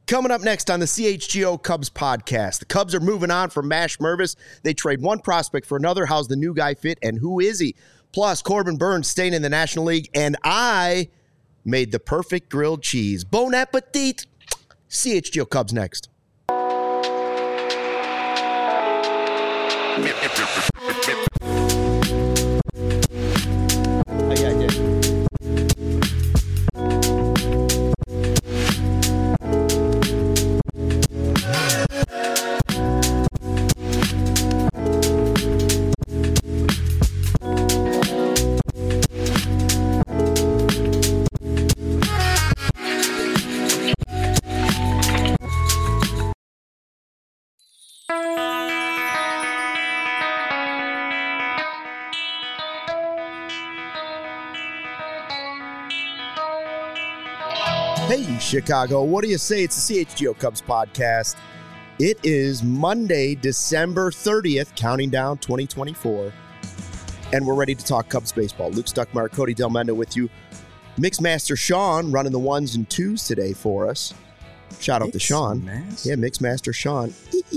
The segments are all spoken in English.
Coming up next on the CHGO Cubs podcast, the Cubs are moving on from Mash Mervis. They trade one prospect for another. How's the new guy fit, and who is he? Plus, Corbin Burns staying in the National League, and I made the perfect grilled cheese. Bon appetit! CHGO Cubs next. Hey, Chicago, what do you say? It's the CHGO Cubs podcast. It is Monday, December 30th, counting down 2024, and we're ready to talk Cubs baseball. Luke Stuckmeyer, Cody Delmendo with you. Mixmaster Sean running the ones and twos today for us. Shout out to Sean. Yeah, Mixmaster Sean.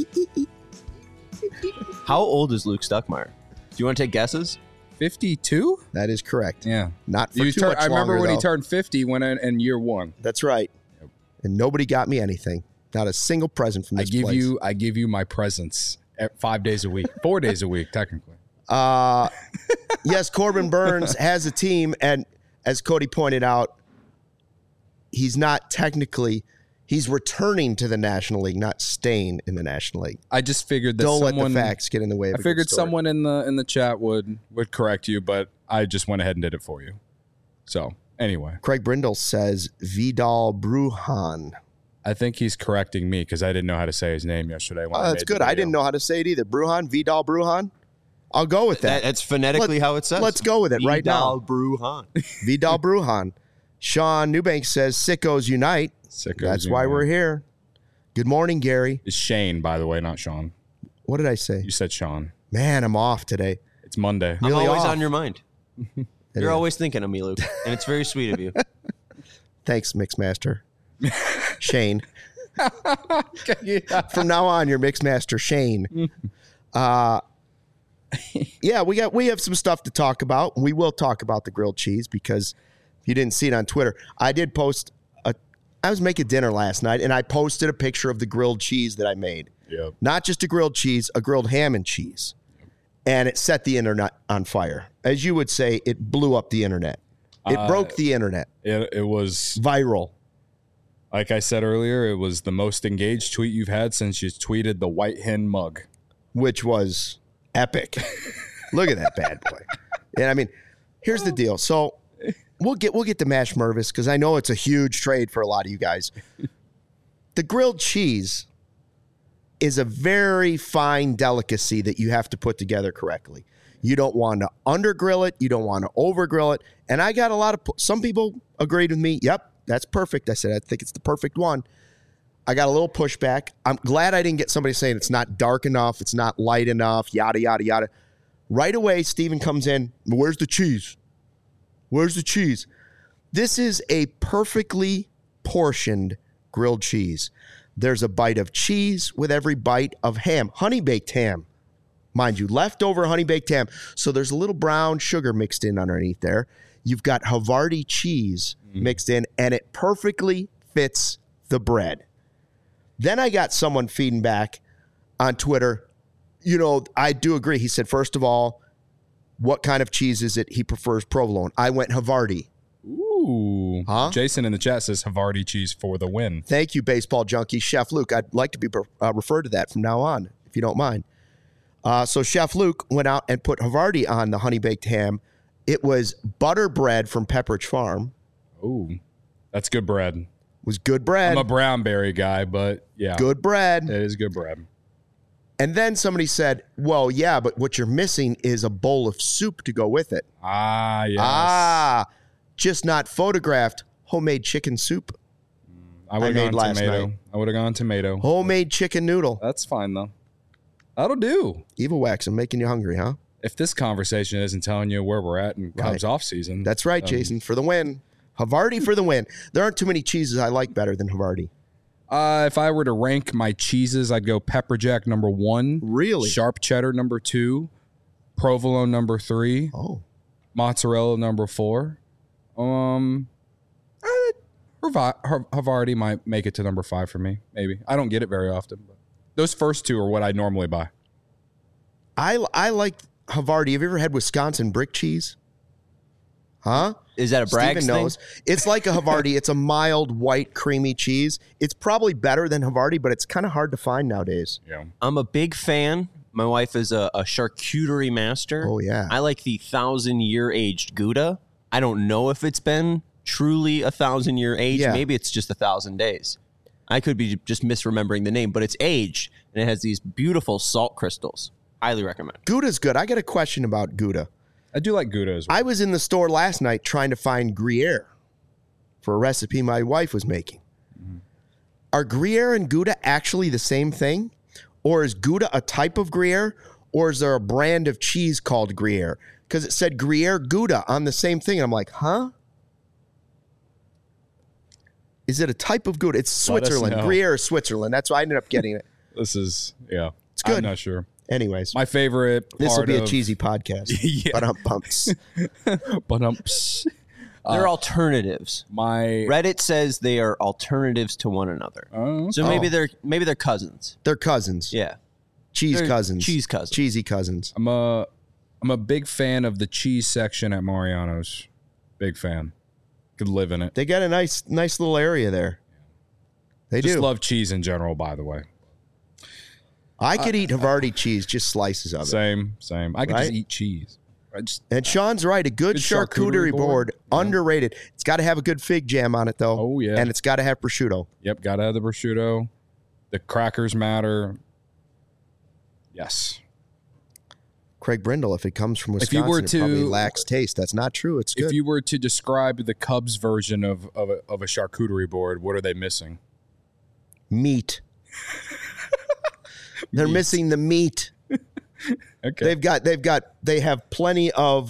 How old is Luke Stuckmeyer? Do you want to take guesses? 52? That is correct. Yeah. Not for too much I remember longer, when though. he turned 50 when in year one. That's right. Yep. And nobody got me anything. Not a single present from this place. I give you my presents 5 days a week. 4 days a week, technically. Yes, Corbin Burns has a team, and as Cody pointed out, he's not technically... He's returning to the National League, not staying in the National League. I just figured that Don't someone... let the facts get in the way of I a good figured story. someone in the chat would correct you, but I just went ahead and did it for you. So, anyway. Craig Brindle says Vidal Brujan. I think he's correcting me because I didn't know how to say his name yesterday. When That's good. I didn't know how to say it either. Brujan, Vidal Brujan. I'll go with that. That's phonetically how it says. Let's go with it right now. Vidal Brujan. Vidal Brujan. Sean Newbank says Sickos Unite. That's why we're here. Good morning, Gary. It's Shane, by the way, not Sean. What did I say? You said Sean. Man, I'm off today. It's Monday. Really I'm always off. on your mind. You're always thinking of me, Luke, and it's very sweet of you. Thanks, Mixmaster. Shane. From now on, you're Mixmaster Shane. Yeah, we have some stuff to talk about. We will talk about the grilled cheese because if you didn't see it on Twitter, I did post I was making dinner last night, and I posted a picture of the grilled cheese that I made. Yep. Not just a grilled cheese, a grilled ham and cheese. And it set the internet on fire. As you would say, it blew up the internet. It broke the internet. It was viral. Like I said earlier, it was the most engaged tweet you've had since you tweeted the White Hen mug. Which was epic. Look at that bad boy. And I mean, here's the deal. So we'll get to Mash Mervis because I know it's a huge trade for a lot of you guys. The grilled cheese is a very fine delicacy that you have to put together correctly. You don't want to undergrill it. You don't want to overgrill it. And I got some people agreed with me. Yep, that's perfect. I said, I think it's the perfect one. I got a little pushback. I'm glad I didn't get somebody saying it's not dark enough. It's not light enough, yada, yada, yada. Right away, Steven comes in. Where's the cheese? Where's the cheese? This is a perfectly portioned grilled cheese. There's a bite of cheese with every bite of ham. Honey-baked ham. Mind you, leftover honey-baked ham. So there's a little brown sugar mixed in underneath there. You've got Havarti cheese mixed in, and it perfectly fits the bread. Then I got someone feeding back on Twitter. You know, I do agree. He said, first of all, what kind of cheese is it? He prefers provolone. I went Havarti. Ooh. Huh? Jason in the chat says Havarti cheese for the win. Thank you, baseball junkie. Chef Luke, I'd like to be referred to that from now on, if you don't mind. So Chef Luke went out and put Havarti on the honey-baked ham. It was butter bread from Pepperidge Farm. Ooh, that's good bread. It was good bread. I'm a brownberry guy, but yeah. Good bread. It is good bread. And then somebody said, well, yeah, but what you're missing is a bowl of soup to go with it. Ah, yes. Just not photographed homemade chicken soup. I would have gone tomato. I would have gone tomato. Homemade chicken noodle. That's fine, though. That'll do. Evil Wax, I'm making you hungry, huh? If this conversation isn't telling you where we're at in Cubs off season. That's right, Jason, for the win. Havarti for the win. There aren't too many cheeses I like better than Havarti. If I were to rank my cheeses, I'd go pepper jack number 1. Really? Sharp cheddar number 2. Provolone number 3. Oh. Mozzarella number 4. Havarti might make it to number 5 for me. Maybe. I don't get it very often. But those first 2 are what I normally buy. I like Havarti. Have you ever had Wisconsin brick cheese? Huh? Is that a Bragg's Steven thing? knows. It's like a Havarti. It's a mild, white, creamy cheese. It's probably better than Havarti, but it's kind of hard to find nowadays. Yeah. I'm a big fan. My wife is a charcuterie master. Oh, yeah. I like the 1,000-year aged Gouda. I don't know if it's been truly 1,000-year age. Yeah. Maybe it's just 1,000 days. I could be just misremembering the name, but it's aged, and it has these beautiful salt crystals. Highly recommend. Gouda's good. I got a question about Gouda. I do like Gouda as well. I was in the store last night trying to find Gruyere for a recipe my wife was making. Are Gruyere and Gouda actually the same thing? Or is Gouda a type of Gruyere? Or is there a brand of cheese called Gruyere? Because it said Gruyere Gouda on the same thing. I'm like, huh? Is it a type of Gouda? It's Let us Switzerland. know. Gruyere is Switzerland. That's why I ended up getting it. This is, yeah. It's good. I'm not sure. Anyways, My favorite this will part be a of- cheesy podcast. Yeah. But bumps. But They're alternatives. my Reddit says they are alternatives to one another. So maybe they're cousins. They're cousins. Yeah. Cheese They're cousins. cheese cousins. Cheesy cousins. I'm a big fan of the cheese section at Mariano's. Big fan. Could live in it. They got a nice little area there. They Just do. love cheese in general, by the way. I could eat Havarti cheese, just slices of it. Same. I could Right? just eat cheese. I just And Sean's right. A good charcuterie board, underrated. It's got to have a good fig jam on it, though. Oh, yeah. And it's got to have prosciutto. Yep, gotta have the prosciutto. The crackers matter. Yes. Craig Brindle, if it comes from If Wisconsin, you were it probably to- lacks taste. That's not true. It's good. If you were to describe the Cubs version of a charcuterie board, what are they missing? Meat. They're missing the meat. Okay. They have plenty of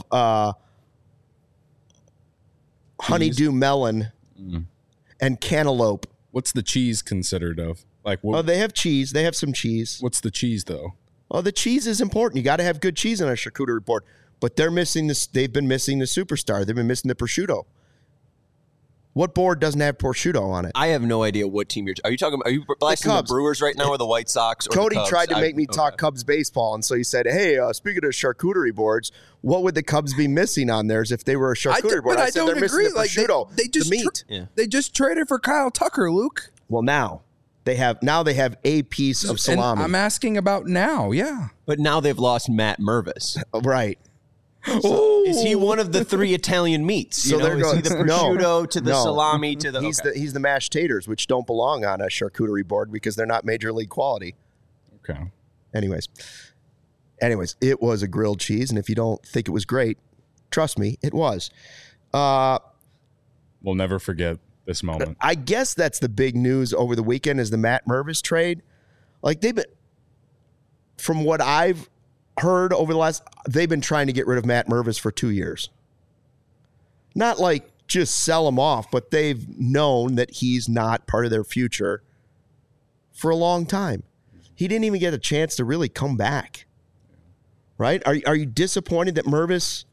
honeydew melon and cantaloupe. What's the cheese considered of? Like, Oh, they have cheese. They have some cheese. what's the cheese though? Oh, the cheese is important. You got to have good cheese on a charcuterie board. But they're missing this. They've been missing the superstar. They've been missing the prosciutto. What board doesn't have prosciutto on it? I have no idea what team are you talking about? Are you blasting the Cubs. Brewers right now or the White Sox? Or the Cody Cubs? tried to make me talk Cubs baseball, and so he said, "Hey, speaking of charcuterie boards, what would the Cubs be missing on theirs if they were a charcuterie board?" I said, "They're missing the prosciutto, the meat." They just traded for Kyle Tucker, Luke. Well, now they have a piece of salami. And I'm asking about now. Yeah. But now they've lost Matt Mervis. Right. Is he one of the 3 Italian meats? So there is goes he the prosciutto to the No. salami to the? He's the mashed taters, which don't belong on a charcuterie board because they're not major league quality. Okay. Anyways, it was a grilled cheese, and if you don't think it was great, trust me, it was. We'll never forget this moment. I guess that's the big news over the weekend is the Matt Mervis trade. Like from what I've heard over the they've been trying to get rid of Matt Mervis for 2 years. Not like just sell him off, but they've known that he's not part of their future for a long time. He didn't even get a chance to really come back. Right? Are you disappointed that Mervis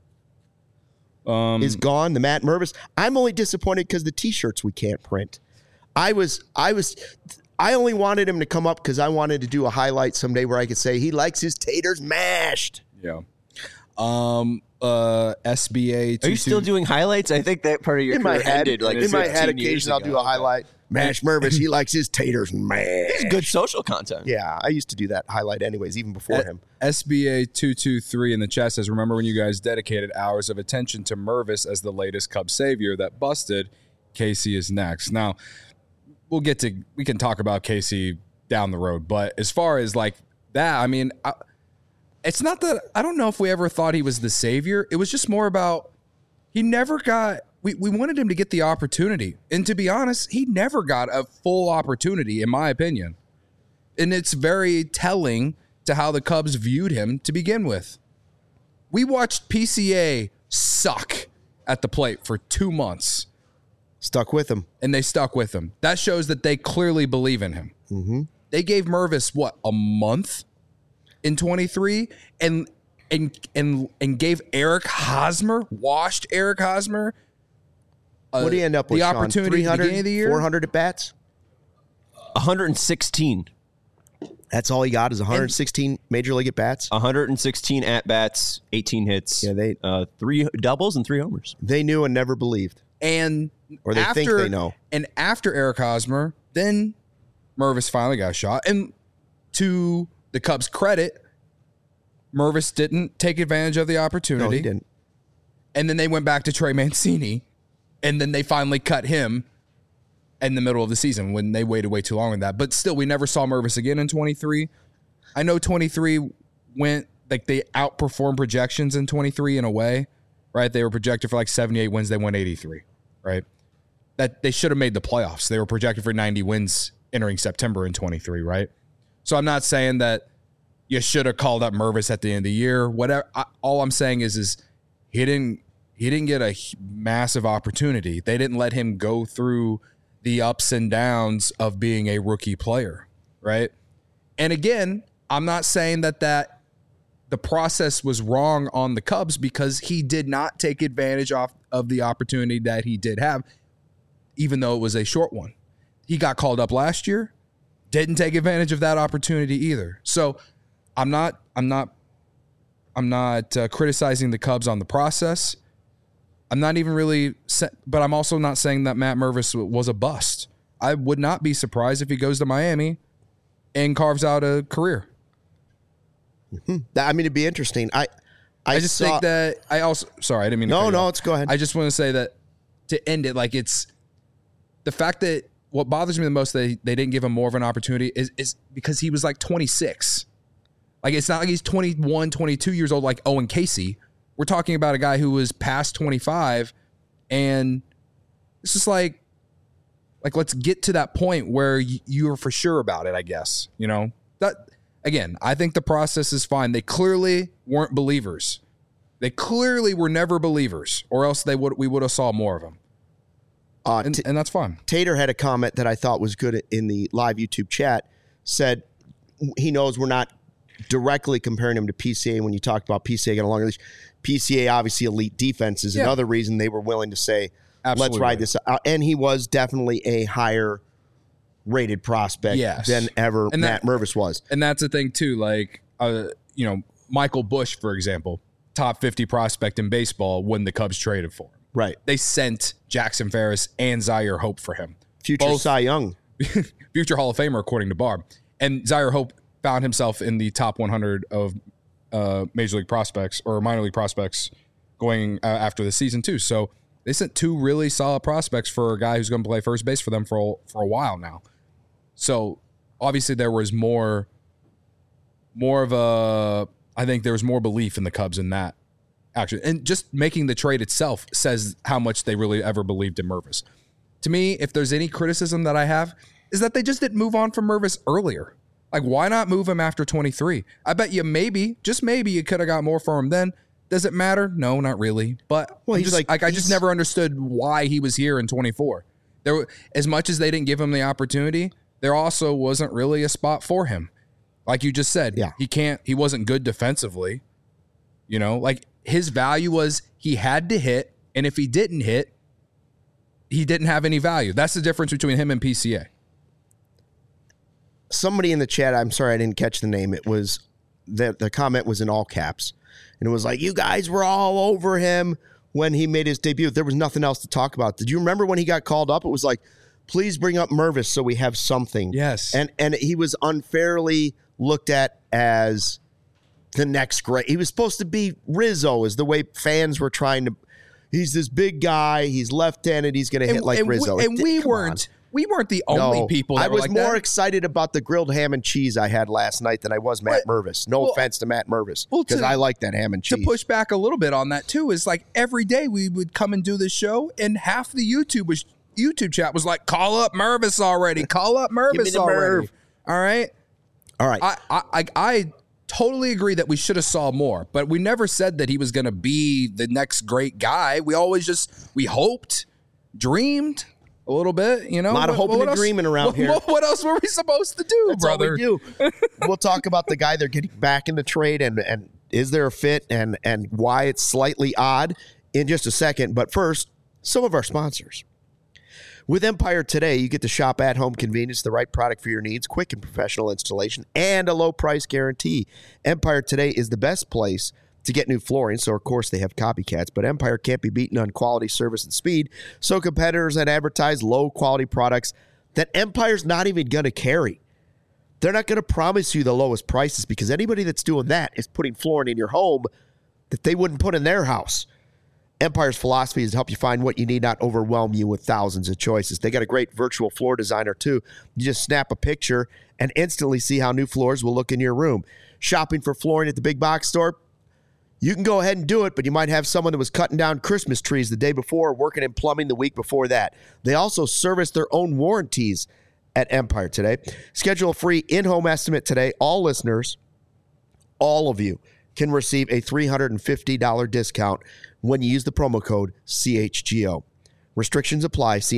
is gone? The Matt Mervis. I'm only disappointed because the T-shirts we can't print. I only wanted him to come up because I wanted to do a highlight someday where I could say he likes his taters mashed. Yeah. SBA. Are you still doing highlights? I think that part of your In my career head, ended like in my head, 15 years occasionally I'll do a highlight. Mash Mervis, he likes his taters mashed. It's good social content. Yeah, I used to do that highlight anyways, even before him. SBA 223 in the chat says, remember when you guys dedicated hours of attention to Mervis as the latest Cub savior that busted? Casey is next. Now, we can talk about Casey down the road, but as far as like that, I mean, it's not that I don't know if we ever thought he was the savior. It was just more about he never got. We wanted him to get the opportunity, and to be honest, he never got a full opportunity, in my opinion. And it's very telling to how the Cubs viewed him to begin with. We watched PCA suck at the plate for 2 months. Stuck with him. And they stuck with him. That shows that they clearly believe in him. Mm-hmm. They gave Mervis, a month in 23? And gave Eric Hosmer, washed Eric Hosmer. What do you end up with, the Sean? opportunity at the beginning of the year? 400 at bats? 116. That's all he got is 116 major league at bats. 116 at bats, 18 hits. Yeah, they 3 doubles and 3 homers. They knew and never believed, Or they think they know. And after Eric Hosmer, then Mervis finally got a shot. And to the Cubs' credit, Mervis didn't take advantage of the opportunity. No, he didn't. And then they went back to Trey Mancini, and then they finally cut him in the middle of the season when they waited way too long on that. But still, we never saw Mervis again in 23. I know 23 went, like, they outperformed projections in 23 in a way, right? They were projected for like 78 wins. They won 83, right? That they should have made the playoffs. They were projected for 90 wins entering September in 23, right? So I'm not saying that you should have called up Mervis at the end of the year. Whatever. All I'm saying is he didn't get a massive opportunity. They didn't let him go through the ups and downs of being a rookie player, right? And again, I'm not saying that the process was wrong on the Cubs because he did not take advantage of the opportunity that he did have, even though it was a short one. He got called up last year, didn't take advantage of that opportunity either. So I'm not criticizing the Cubs on the process. I'm not even really, but I'm also not saying that Matt Mervis was a bust. I would not be surprised if he goes to Miami and carves out a career. Mm-hmm. I mean, it'd be interesting. I just think that I also, sorry, I didn't mean to. No, let's go ahead. I just want to say that to end it, like, it's the fact that what bothers me the most that they didn't give him more of an opportunity is because he was like 26. Like, it's not like he's 21, 22 years old like Owen Casey. We're talking about a guy who was past 25, and it's just like let's get to that point where you're for sure about it, I guess. You know, that again, I think the process is fine. They clearly weren't believers. They clearly were never believers, or else we would have saw more of them. And that's fine. Tater had a comment that I thought was good in the live YouTube chat. Said he knows we're not directly comparing him to PCA when you talked about PCA getting a longer leash. PCA, obviously elite defense, is another reason they were willing to say, let's ride this out. And he was definitely a higher rated prospect than ever Matt Mervis was. And that's the thing too. Like, Michael Busch, for example, top 50 prospect in baseball when the Cubs traded for him. Right. They sent Jackson Ferris and Zaire Hope for him. Future Cy Young. Future Hall of Famer, according to Barb. And Zaire Hope found himself in the top 100 of major league prospects or minor league prospects going after the season too. So they sent 2 really solid prospects for a guy who's going to play first base for them for a while now. So obviously there was more of a, I think there was more belief in the Cubs in that action. And just making the trade itself says how much they really ever believed in Mervis. To me, if there's any criticism that I have, is that they just didn't move on from Mervis earlier. Like, why not move him after 23? I bet you just maybe you could have got more for him then. Does it matter? No, not really. But I just never understood why he was here in 24. As much as they didn't give him the opportunity, there also wasn't really a spot for him. Like you just said, he wasn't good defensively. You know, like his value was he had to hit, and if he didn't hit, he didn't have any value. That's the difference between him and PCA. Somebody in the chat, I'm sorry I didn't catch the name. It was the comment was in all caps, and it was like, you guys were all over him when he made his debut. There was nothing else to talk about. Did you remember when he got called up? It was like, please bring up Mervis so we have something. Yes. And he was unfairly looked at as the next great. He was supposed to be Rizzo, is the way fans were trying to. He's this big guy. He's left-handed. He's going to hit like Rizzo. We weren't the only people that I was like more that. excited about the grilled ham and cheese I had last night than I was Matt Mervis. No offense to Matt Mervis, because I like that ham and cheese. To push back a little bit on that, too, is like every day we would come and do this show, and half the YouTube chat was like, call up Mervis already. Call up Mervis already. All right? All right. I totally agree that we should have saw more, but we never said that he was going to be the next great guy. We always we hoped, dreamed, a little bit, you know. A lot of hope and agreement around here. What else were we supposed to do, That's brother? all we do. We'll talk about the guy they're getting back in the trade and is there a fit and why it's slightly odd in just a second. But first, some of our sponsors. With Empire Today, you get to shop at home convenience, the right product for your needs, quick and professional installation, and a low price guarantee. Empire Today is the best place to get new flooring, so of course they have copycats, but Empire can't be beaten on quality, service, and speed, so competitors that advertise low-quality products that Empire's not even going to carry. They're not going to promise you the lowest prices because anybody that's doing that is putting flooring in your home that they wouldn't put in their house. Empire's philosophy is to help you find what you need, not overwhelm you with thousands of choices. They got a great virtual floor designer, too. You just snap a picture and instantly see how new floors will look in your room. Shopping for flooring at the big box store? You can go ahead and do it, but you might have someone that was cutting down Christmas trees the day before or working in plumbing the week before that. They also service their own warranties at Empire Today. Schedule a free in-home estimate today. All listeners, all of you, can receive a $350 discount when you use the promo code CHGO. Restrictions apply. See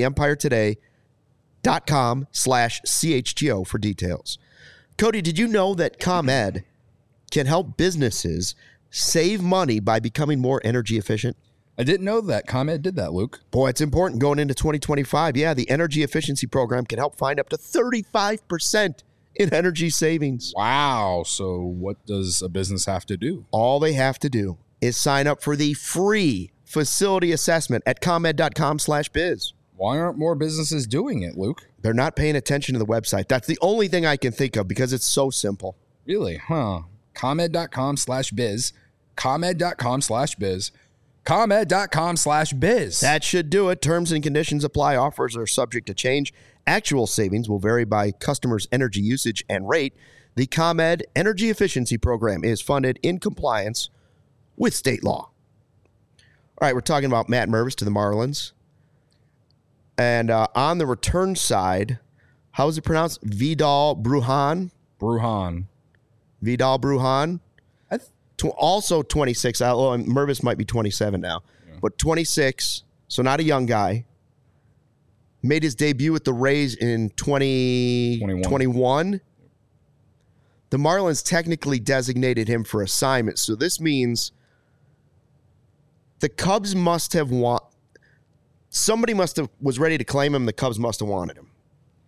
EmpireToday.com/CHGO for details. Cody, did you know that ComEd can help businesses save money by becoming more energy efficient? I didn't know that ComEd did that, Luke. Boy, it's important going into 2025. Yeah, the energy efficiency program can help find up to 35% in energy savings. Wow. So what does a business have to do? All they have to do is sign up for the free facility assessment at ComEd.com/biz. Why aren't more businesses doing it, Luke? They're not paying attention to the website. That's the only thing I can think of because it's so simple. Really? Huh. ComEd.com/biz. ComEd.com/biz. ComEd.com/biz. That should do it. Terms and conditions apply. Offers are subject to change. Actual savings will vary by customer's energy usage and rate. The ComEd Energy Efficiency Program is funded in compliance with state law. All right, we're talking about Matt Mervis to the Marlins. And on the return side, how is it pronounced? Vidal Brujan? Vidal Brujan. Also 26. Mervis might be 27 now. Yeah. But 26, so not a young guy. Made his debut with the Rays in 2021. The Marlins technically designated him for assignment, so this means the Cubs must have somebody was ready to claim him. The Cubs must have wanted him.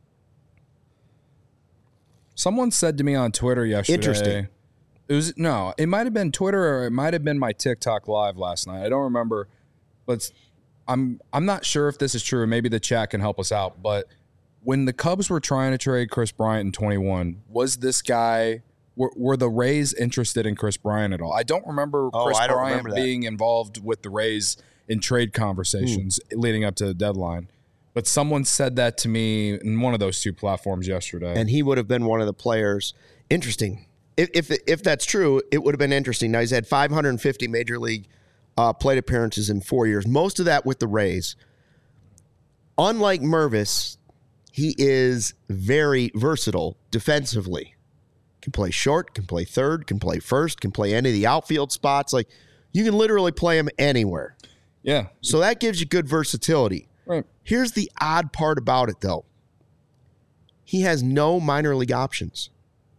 Someone said to me on Twitter yesterday. Interesting. It might have been Twitter or it might have been my TikTok live last night. I don't remember, but I'm not sure if this is true. Maybe the chat can help us out. But when the Cubs were trying to trade Chris Bryant in 21, was this guy? Were the Rays interested in Chris Bryant at all? I don't remember Chris Bryant being involved with the Rays in trade conversations leading up to the deadline. But someone said that to me in one of those two platforms yesterday. And he would have been one of the players. Interesting. If that's true, it would have been interesting. Now, he's had 550 Major League plate appearances in 4 years, most of that with the Rays. Unlike Mervis, he is very versatile defensively. Can play short, can play third, can play first, can play any of the outfield spots. Like, you can literally play him anywhere. Yeah. So that gives you good versatility. Right. Here's the odd part about it, though. He has no minor league options.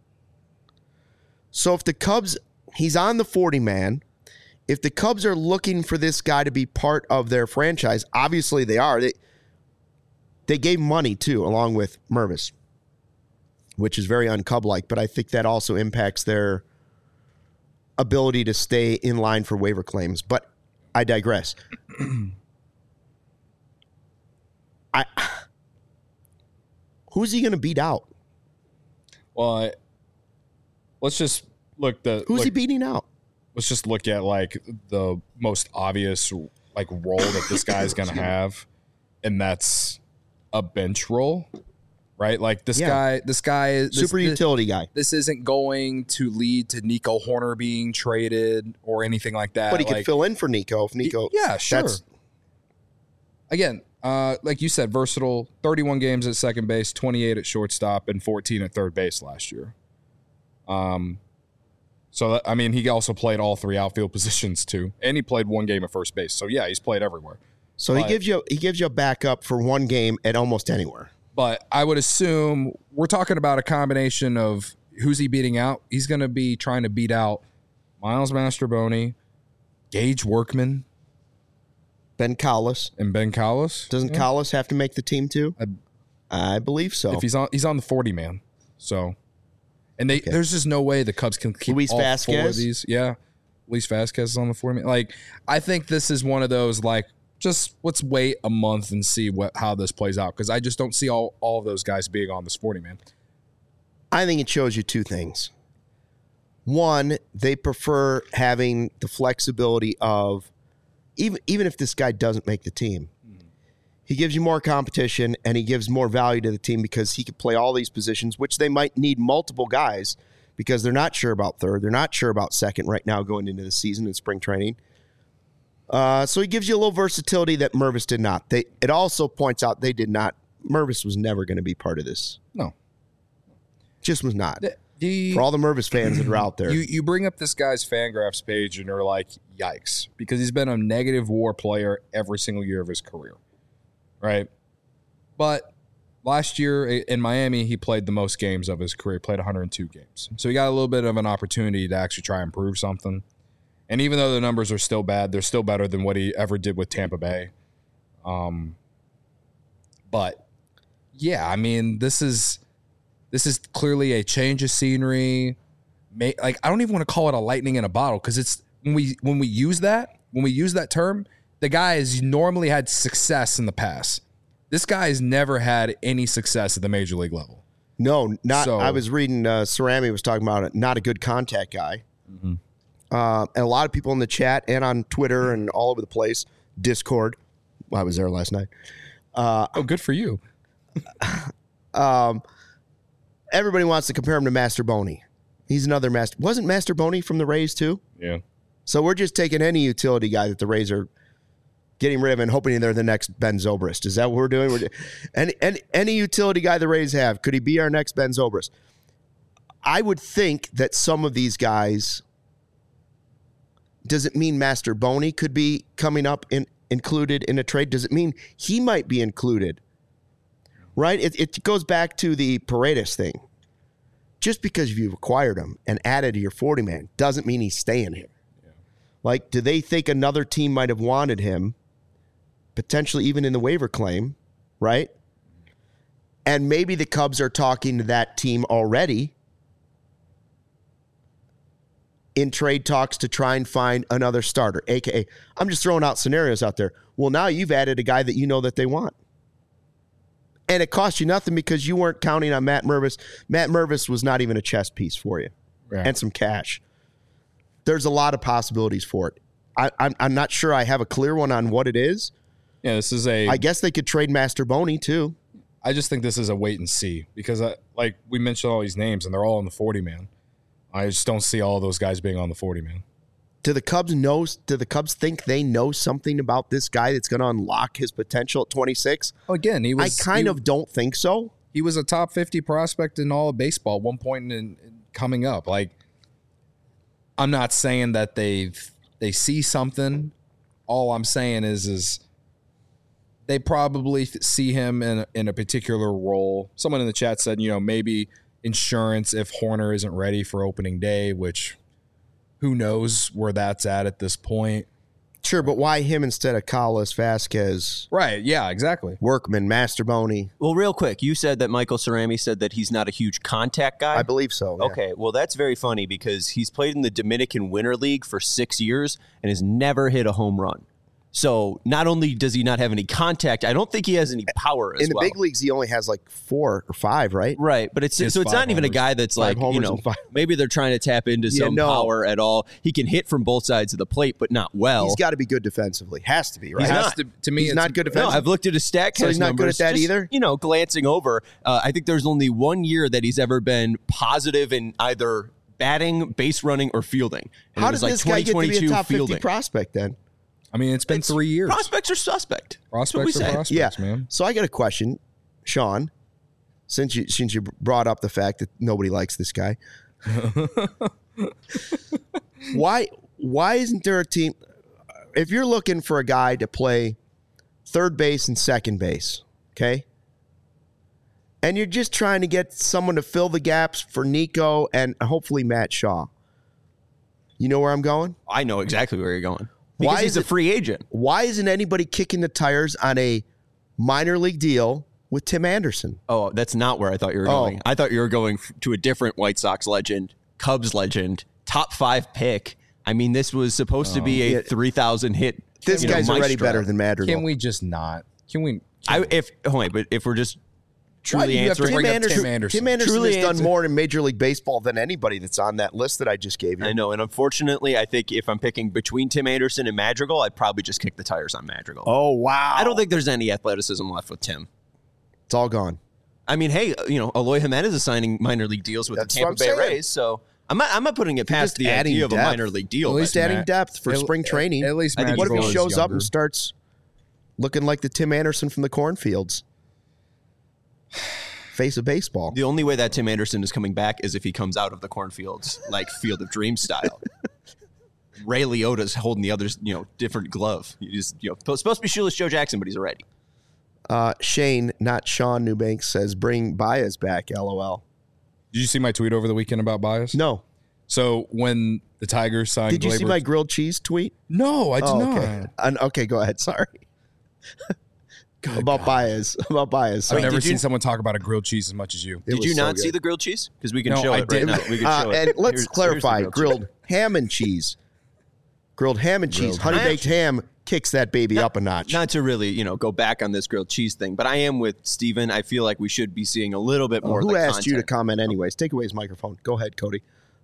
So if the Cubs, he's on the 40-man. If the Cubs are looking for this guy to be part of their franchise, obviously they are. They gave money, too, along with Mervis, which is very un-Cub-like, but I think that also impacts their ability to stay in line for waiver claims. But I digress. Who's he going to beat out? Well, let's just look. Who's he beating out? Let's just look at like the most obvious like role that this guy's going to have, and that's a bench role, right? Like this guy, super utility guy. This isn't going to lead to Nico Horner being traded or anything like that. But he could fill in for Nico if Nico. Yeah, sure. Again, like you said, versatile. 31 games at second base, 28 at shortstop, and 14 at third base last year. So, he also played all three outfield positions, too. And he played one game at first base. So, yeah, he's played everywhere. So he gives you a backup for one game at almost anywhere. But I would assume we're talking about a combination of who's he beating out. He's going to be trying to beat out Miles Mastrobuoni, Gage Workman, Ben Collis. and Ben Collis. Doesn't Collis have to make the team too? I believe so. If he's on the 40 man. So, and there's just no way the Cubs can keep Luis all Vasquez? 4 of these. Yeah, Luis Vasquez is on the 40 man. Like, I think this is one of those like, just let's wait a month and see how this plays out, because I just don't see all of those guys being on this 40 man. I think it shows you two things. One, they prefer having the flexibility of even if this guy doesn't make the team, he gives you more competition and he gives more value to the team because he could play all these positions, which they might need multiple guys because they're not sure about third. They're not sure about second right now going into the season in spring training. So he gives you a little versatility that Mervis did not. It also points out they did not. Mervis was never going to be part of this. No. Just was not. For all the Mervis fans that are out there. You bring up this guy's Fangraphs page and you're like, yikes, because he's been a negative WAR player every single year of his career, right? But last year in Miami, he played the most games of his career. He played 102 games. So he got a little bit of an opportunity to actually try and prove something. And even though the numbers are still bad, they're still better than what he ever did with Tampa Bay. But yeah, I mean, this is clearly a change of scenery. Like, I don't even want to call it a lightning in a bottle, because it's when we use that term, the guy has normally had success in the past. This guy has never had any success at the major league level. No, not. So, I was reading. Cerami was talking about it. Not a good contact guy. Mm-hmm. And a lot of people in the chat and on Twitter and all over the place, Discord. I was there last night. Oh, good for you. Everybody wants to compare him to Mastrobuoni. He's another Master. Wasn't Mastrobuoni from the Rays too? Yeah. So we're just taking any utility guy that the Rays are getting rid of and hoping they're the next Ben Zobrist. Is that what we're doing? Any utility guy the Rays have, could he be our next Ben Zobrist? I would think that some of these guys. Does it mean Mastrobuoni could be coming up included in a trade? Does it mean he might be included? Right? It goes back to the Paredes thing. Just because you've acquired him and added to your 40-man doesn't mean he's staying here. Yeah. Like, do they think another team might have wanted him, potentially even in the waiver claim, right? And maybe the Cubs are talking to that team already in trade talks to try and find another starter, a.k.a. I'm just throwing out scenarios out there. Well, now you've added a guy that you know that they want. And it cost you nothing because you weren't counting on Matt Mervis. Matt Mervis was not even a chess piece for you, right, and some cash. There's a lot of possibilities for it. I'm not sure I have a clear one on what it is. Yeah, this is I guess they could trade Mastrobuoni too. I just think this is a wait and see because, like we mentioned all these names and they're all on the 40-man. I just don't see all those guys being on the 40-man. Do the Cubs think they know something about this guy that's going to unlock his potential at 26? Oh, again, I kind of don't think so. He was a top 50 prospect in all of baseball at one point in coming up. Like, I'm not saying that they see something. All I'm saying is they probably see him in a particular role. Someone in the chat said, maybe insurance if Horner isn't ready for opening day, which who knows where that's at this point. Sure, but why him instead of Collis, Vasquez? Right, yeah, exactly. Workman, Mastrobuoni. Well, real quick, you said that Michael Cerami said that he's not a huge contact guy. I believe so. Yeah. Okay, well, that's very funny because he's played in the Dominican Winter League for 6 years and has never hit a home run. So not only does he not have any contact, I don't think he has any power as well. In the big leagues, he only has like 4 or 5, right? Right, but it's not even a guy that's like, maybe they're trying to tap into some power at all. He can hit from both sides of the plate, but not well. He's got to be good defensively. Has to be, right? He's not. To me, he's not good defensively. No, I've looked at his StatCast so he's not numbers, good at that either? Glancing over. I think there's only 1 year that he's ever been positive in either batting, base running, or fielding. And how does this guy get to be a top 50 prospect then? I mean, it's been 3 years. Prospects are suspect. Prospects are prospects, man. So I got a question, Sean, since you brought up the fact that nobody likes this guy. Why isn't there a team? If you're looking for a guy to play third base and second base, okay? And you're just trying to get someone to fill the gaps for Nico and hopefully Matt Shaw. You know where I'm going? I know exactly where you're going. Because he's a free agent. Why isn't anybody kicking the tires on a minor league deal with Tim Anderson? Oh, that's not where I thought you were going. I thought you were going to a different White Sox legend, Cubs legend, top 5 pick. I mean, this was supposed to be a 3,000 hit. This guy's already better than Madrigal. Can we just not? Can we? If we're just truly answering, Tim Anderson truly has done more in Major League Baseball than anybody that's on that list that I just gave you. I know, and unfortunately, I think if I'm picking between Tim Anderson and Madrigal, I'd probably just kick the tires on Madrigal. Oh, wow. I don't think there's any athleticism left with Tim. It's all gone. I mean, hey, Eloy Jimenez is signing minor league deals with the Tampa Bay Rays, so I'm not putting it past the idea of a minor league deal. At least adding depth for spring training. At least, I think what if he shows up younger. and starts looking like the Tim Anderson from the cornfields? Face of baseball. The only way that Tim Anderson is coming back is if he comes out of the cornfields, like Field of Dreams style. Ray Liotta's holding the other's, different glove. Supposed to be shoeless Joe Jackson, but he's already. Shane, not Sean Newbanks, says bring Baez back. LOL. Did you see my tweet over the weekend about Baez? No. So when the Tigers signed, Did you see my grilled cheese tweet? No, I did not. Okay. Okay, go ahead. Sorry. About Baez. I've never seen someone talk about a grilled cheese as much as you. Did you not see the grilled cheese? Because we can show it right now. We can show it. And let's clarify: grilled ham and cheese. Grilled ham and cheese. Honey baked ham kicks that baby up a notch. Not to really, go back on this grilled cheese thing, but I am with Steven. I feel like we should be seeing a little bit more. Who asked you to comment anyways? Take away his microphone. Go ahead, Cody.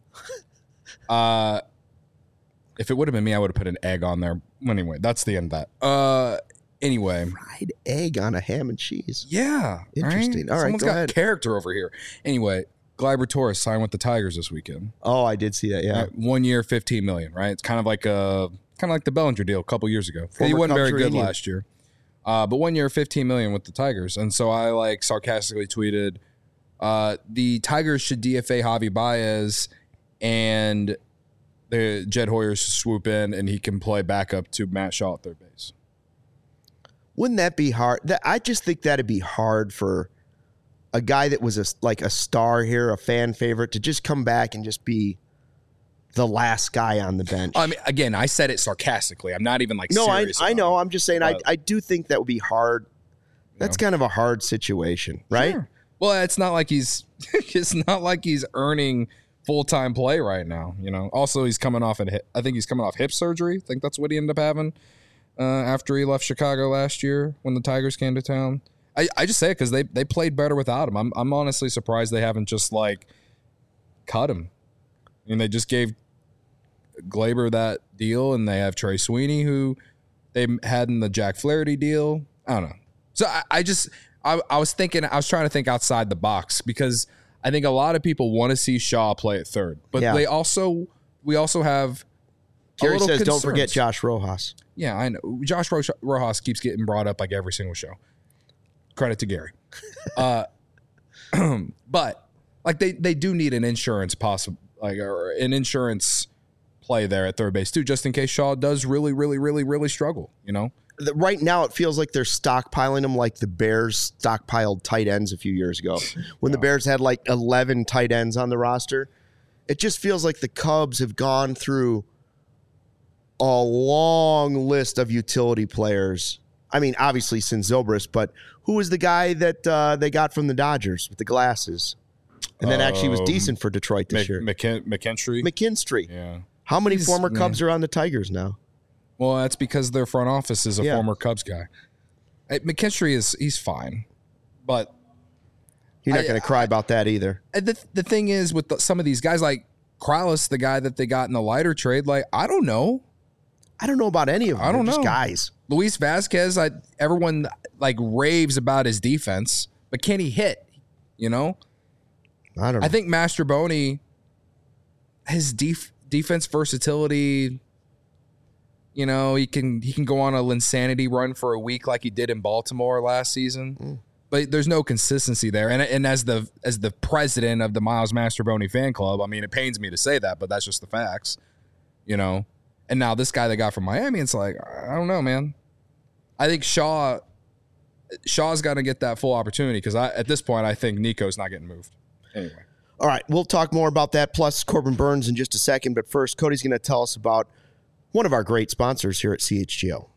If it would have been me, I would have put an egg on there. Anyway, that's the end of that. Anyway, fried egg on a ham and cheese. Yeah, interesting. All right, someone's go got ahead. Character over here. Anyway, Gleyber Torres signed with the Tigers this weekend. Oh, I did see that. Yeah, 1 year, $15 million. Right, it's kind of like the Bellinger deal a couple years ago. He wasn't very good last year, but 1 year, $15 million with the Tigers. And so I sarcastically tweeted, the Tigers should DFA Javi Baez and the Jed Hoyer swoop in and he can play backup to Matt Shaw at third base. Wouldn't that be hard? I just think that'd be hard for a guy that was a star here, a fan favorite, to just come back and just be the last guy on the bench. I mean, again, I said it sarcastically. I'm not even serious. I know. I'm just saying. I do think that would be hard. That's kind of a hard situation, right? Sure. Well, it's not like he's earning full-time play right now. Also he's coming off I think he's coming off hip surgery. I think that's what he ended up having. After he left Chicago last year when the Tigers came to town. I just say it because they played better without him. I'm honestly surprised they haven't just cut him. I mean, they just gave Gleyber that deal, and they have Trey Sweeney, who they had in the Jack Flaherty deal. I don't know. So I was trying to think outside the box because I think a lot of people want to see Shaw play at third, but we also have. Gary says, don't forget Josh Rojas. Yeah, I know. Josh Rojas keeps getting brought up every single show. Credit to Gary. But they do need an insurance or an insurance play there at third base too, just in case Shaw does really, really, really, really struggle. Right now, it feels like they're stockpiling them like the Bears stockpiled tight ends a few years ago. When the Bears had 11 tight ends on the roster, it just feels like the Cubs have gone through a long list of utility players. I mean, obviously since Zobrist, but who was the guy that they got from the Dodgers with the glasses? And then actually was decent for Detroit this year. McKinstry. Yeah. How many former Cubs are on the Tigers now? Well, that's because their front office is a former Cubs guy. McKinstry he's fine, but you're not going to cry about that either. The thing is with some of these guys like Krallis, the guy that they got in the Leiter trade, I don't know. I don't know about any of them. I don't know. Just guys. Luis Vasquez, everyone raves about his defense, but can he hit? I don't know. I think Mastroboni, his defense versatility, he can go on a Linsanity run for a week like he did in Baltimore last season. But there's no consistency there. And as the president of the Miles Mastroboni fan club, I mean, it pains me to say that, but that's just the facts, And now this guy they got from Miami, it's I don't know, man. I think Shaw's got to get that full opportunity because at this point, I think Nico's not getting moved. Anyway. All right, we'll talk more about that, plus Corbin Burns in just a second. But first, Cody's going to tell us about one of our great sponsors here at CHGO.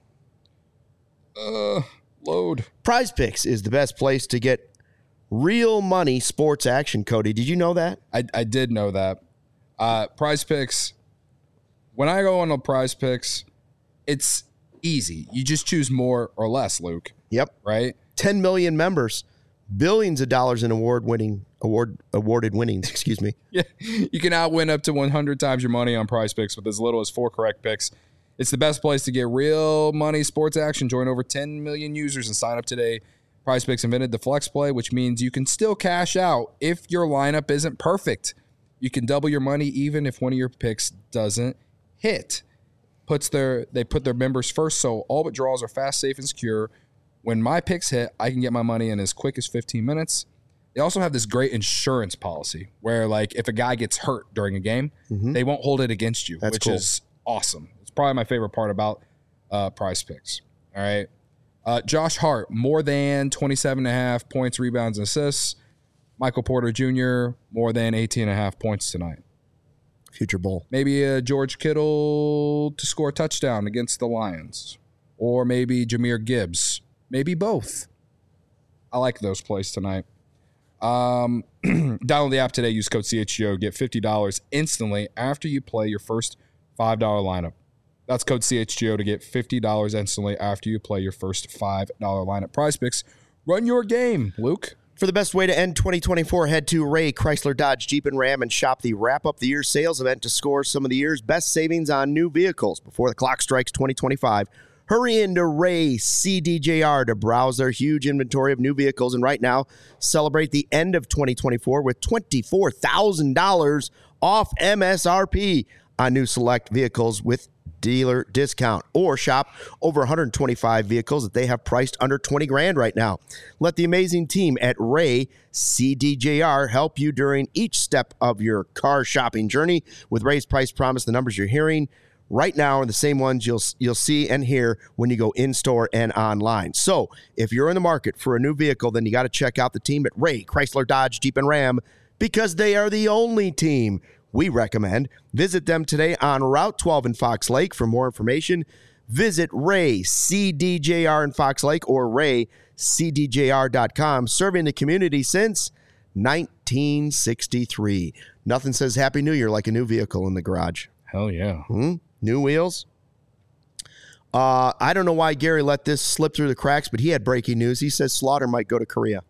Load. Prize Picks is the best place to get real money sports action, Cody. Did you know that? I did know that. Prize Picks, when I go on a Prize Picks, it's easy. You just choose more or less, Luke. Yep. Right? 10 million members, billions of dollars in awarded winnings, excuse me. Yeah, you can outwin up to 100 times your money on Prize Picks with as little as 4 correct picks. It's the best place to get real money sports action. Join over 10 million users and sign up today. Prize Picks invented the flex play, which means you can still cash out if your lineup isn't perfect. You can double your money even if one of your picks doesn't hit. They put their members first, so all withdrawals are fast, safe, and secure. When my picks hit, I can get my money in as quick as 15 minutes. They also have this great insurance policy where, like, if a guy gets hurt during a game, they won't hold it against you, which is awesome. It's probably my favorite part about Prize Picks. All right. Josh Hart, more than 27.5 points, rebounds, and assists. Michael Porter Jr., more than 18.5 points tonight. Future Bowl. Maybe George Kittle to score a touchdown against the Lions. Or maybe Jahmyr Gibbs. Maybe both. I like those plays tonight. Download the app today. Use code CHGO. Get $50 instantly after you play your first $5 lineup. That's code CHGO to get $50 instantly after you play your first $5 lineup. Prize Picks. Run your game, Luke. For the best way to end 2024, head to Ray Chrysler Dodge Jeep and Ram and shop the Wrap Up the Year sales event to score some of the year's best savings on new vehicles before the clock strikes 2025. Hurry into Ray CDJR to browse their huge inventory of new vehicles, and right now, celebrate the end of 2024 with $24,000 off MSRP on new select vehicles with dealer discount, or shop over 125 vehicles that they have priced under 20 grand right now. Let the amazing team at Ray CDJR help you during each step of your car shopping journey. With Ray's Price Promise, the numbers you're hearing right now are the same ones you'll see and hear when you go in-store and online. So if you're in the market for a new vehicle, then you got to check out the team at Ray Chrysler Dodge Jeep and Ram, because they are the only team we recommend. Visit them today on Route 12 in Fox Lake. For more information, visit Ray CDJR in Fox Lake or raycdjr.com. Serving the community since 1963. Nothing says Happy New Year like a new vehicle in the garage. Hell yeah. New wheels. I don't know why Gary let this slip through the cracks, but he had breaking news. He says Slaughter might go to Korea.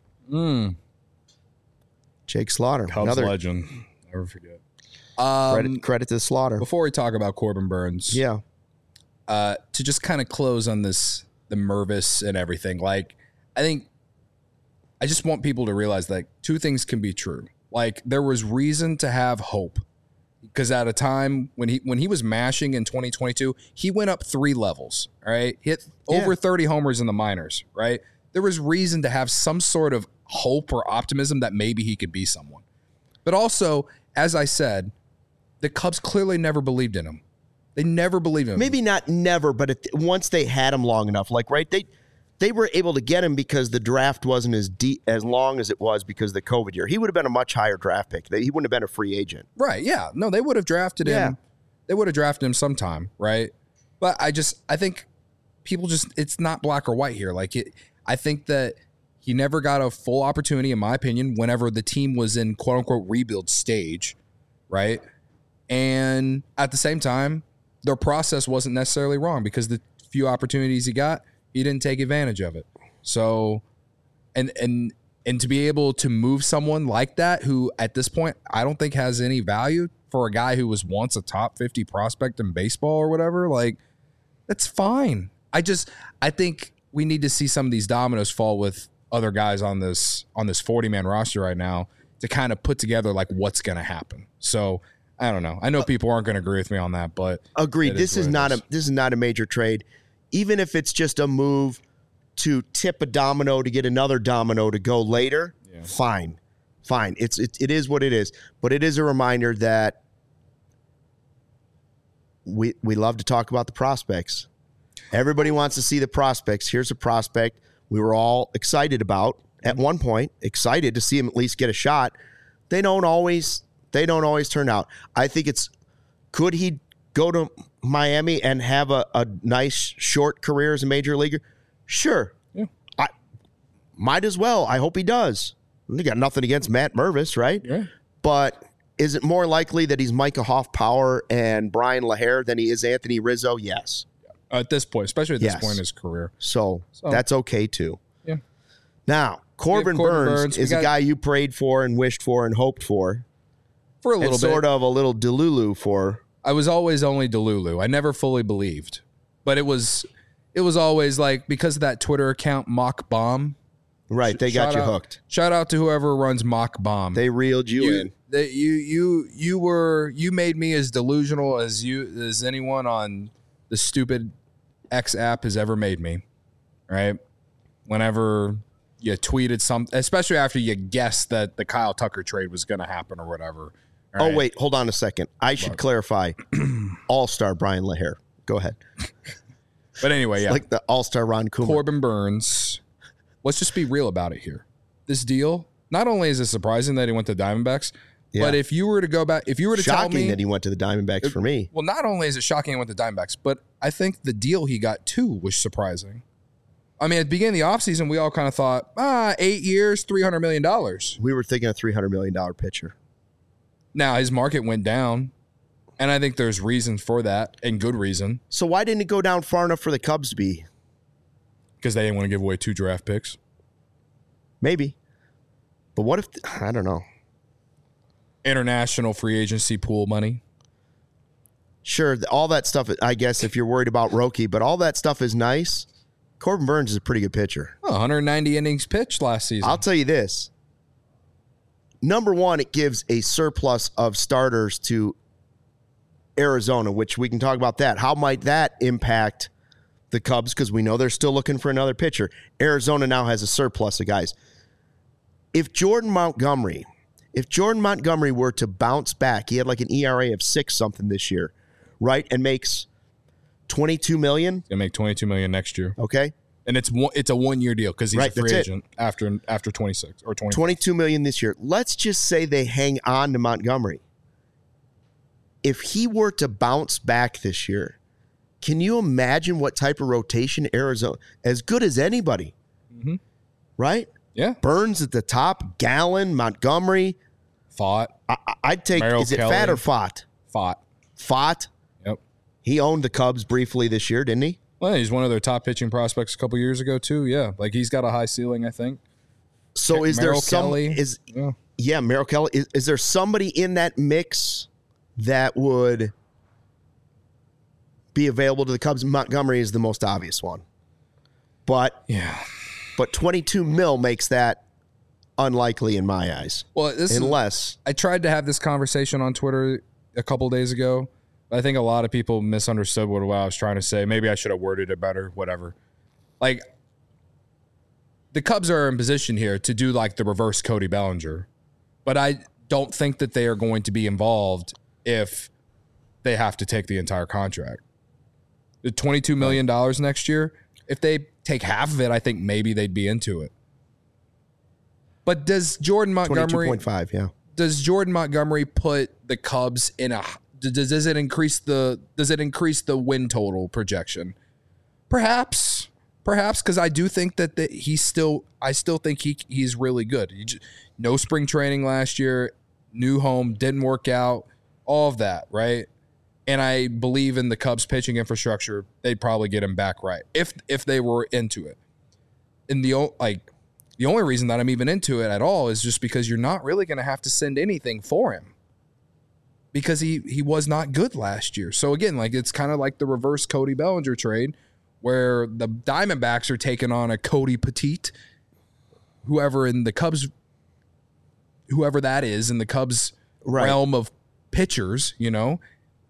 Jake Slaughter. Cubs legend. Never forget. Credit to Slaughter. Before we talk about Corbin Burns, to just kind of close on this, the Mervis and everything, like, I just want people to realize that two things can be true. Like, there was reason to have hope, because at a time when he was mashing in 2022, he went up 3 levels, all right? Hit over 30 homers in the minors, right? There was reason to have some sort of hope or optimism that maybe he could be someone. But also, as I said, the Cubs clearly never believed in him. They never believed in him. Maybe not never, but once they had him long enough, like, right, they were able to get him because the draft wasn't as long as it was because of the COVID year. He would have been a much higher draft pick. He wouldn't have been a free agent. Right, yeah. No, they would have drafted him. They would have drafted him sometime, right? But I think people it's not black or white here. Like, I think that he never got a full opportunity, in my opinion, whenever the team was in quote-unquote rebuild stage, right? And at the same time, their process wasn't necessarily wrong, because the few opportunities he got, he didn't take advantage of it. So, and to be able to move someone like that, who at this point I don't think has any value, for a guy who was once a top 50 prospect in baseball or whatever, like, that's fine. I think we need to see some of these dominoes fall with other guys on this 40-man roster right now to kind of put together like what's going to happen. So I don't know. I know people aren't going to agree with me on that, but agreed. This is not a major trade. Even if it's just a move to tip a domino to get another domino to go later, fine. It is what it is. But it is a reminder that we love to talk about the prospects. Everybody wants to see the prospects. Here's a prospect we were all excited about at one point, excited to see him at least get a shot. They don't always turn out. I think could he go to Miami and have a nice short career as a major leaguer? Sure. Yeah. I might as well. I hope he does. They got nothing against Matt Mervis, right? Yeah. But is it more likely that he's Micah Hoffpower and Brian LaHare than he is Anthony Rizzo? Yes. At this point, especially at this Yes. point in his career. So that's okay too. Yeah. Now, Corbin Burns is a guy you prayed for and wished for and hoped for. For a little and bit. sort of a little Delulu for. I was always only Delulu. I never fully believed. But it was always like, because of that Twitter account, Mock Bomb. Right, they got you hooked. Shout out to whoever runs Mock Bomb. They reeled you in. You made me as delusional as anyone on the stupid X app has ever made me. Right? Whenever you tweeted something, especially after you guessed that the Kyle Tucker trade was going to happen or whatever. All right? Oh, wait, hold on a second. I should clarify. All-star Brian LaHare. Go ahead. But anyway, yeah. Like the all-star Ron Cooper. Corbin Burns. Let's just be real about it here. This deal, not only is it surprising that he went to Diamondbacks, but if you were to go back, if you were to tell me. Shocking that he went to the Diamondbacks for me. Well, not only is it shocking he went to Diamondbacks, but I think the deal he got too was surprising. I mean, at the beginning of the offseason, we all kind of thought, 8 years, $300 million. We were thinking a $300 million pitcher. Now, his market went down, and I think there's reasons for that, and good reason. So why didn't it go down far enough for the Cubs to be? Because they didn't want to give away 2 draft picks. Maybe. But what if, I don't know. International free agency pool money. Sure, all that stuff, I guess, if you're worried about Roki, but all that stuff is nice. Corbin Burns is a pretty good pitcher. 190 innings pitched last season. I'll tell you this. Number one, it gives a surplus of starters to Arizona, which we can talk about that. How might that impact the Cubs? Because we know they're still looking for another pitcher. Arizona now has a surplus of guys. If Jordan Montgomery were to bounce back, he had like an ERA of 6 something this year, right? And makes $22 million. He's gonna make $22 million next year. Okay. And it's a 1-year deal because he's Right, a free that's agent after 26 or 20. $22 million this year. Let's just say they hang on to Montgomery. If he were to bounce back this year, can you imagine what type of rotation Arizona, as good as anybody, right? Yeah. Burns at the top, Gallen, Montgomery. Fought. I'd take, Merrill is it Kelly. Fat or Fott? Fought. Fott. Yep. He owned the Cubs briefly this year, didn't he? Well, he's one of their top pitching prospects a couple years ago too. Yeah, like he's got a high ceiling, I think. So is Merrill there some Kelly. yeah, Merrill Kelly. Is there somebody in that mix that would be available to the Cubs? Montgomery is the most obvious one. But 22 mil makes that unlikely in my eyes. Well, unless I tried to have this conversation on Twitter a couple days ago. I think a lot of people misunderstood what I was trying to say. Maybe I should have worded it better, whatever. Like, the Cubs are in position here to do like the reverse Cody Bellinger. But I don't think that they are going to be involved if they have to take the entire contract. The $22 million next year, if they take half of it, I think maybe they'd be into it. But does Jordan Montgomery 22.5, yeah. Does Jordan Montgomery put the Cubs in a does it increase the win total projection? Perhaps because I do think that I still think he's really good. No spring training last year, new home, didn't work out, all of that, right? And I believe in the Cubs pitching infrastructure, they'd probably get him back right if they were into it. And the only reason that I'm even into it at all is just because you're not really going to have to send anything for him. Because he was not good last year. So again, like it's kind of like the reverse Cody Bellinger trade where the Diamondbacks are taking on a Cody Petite, whoever that is in the Cubs realm of pitchers, you know.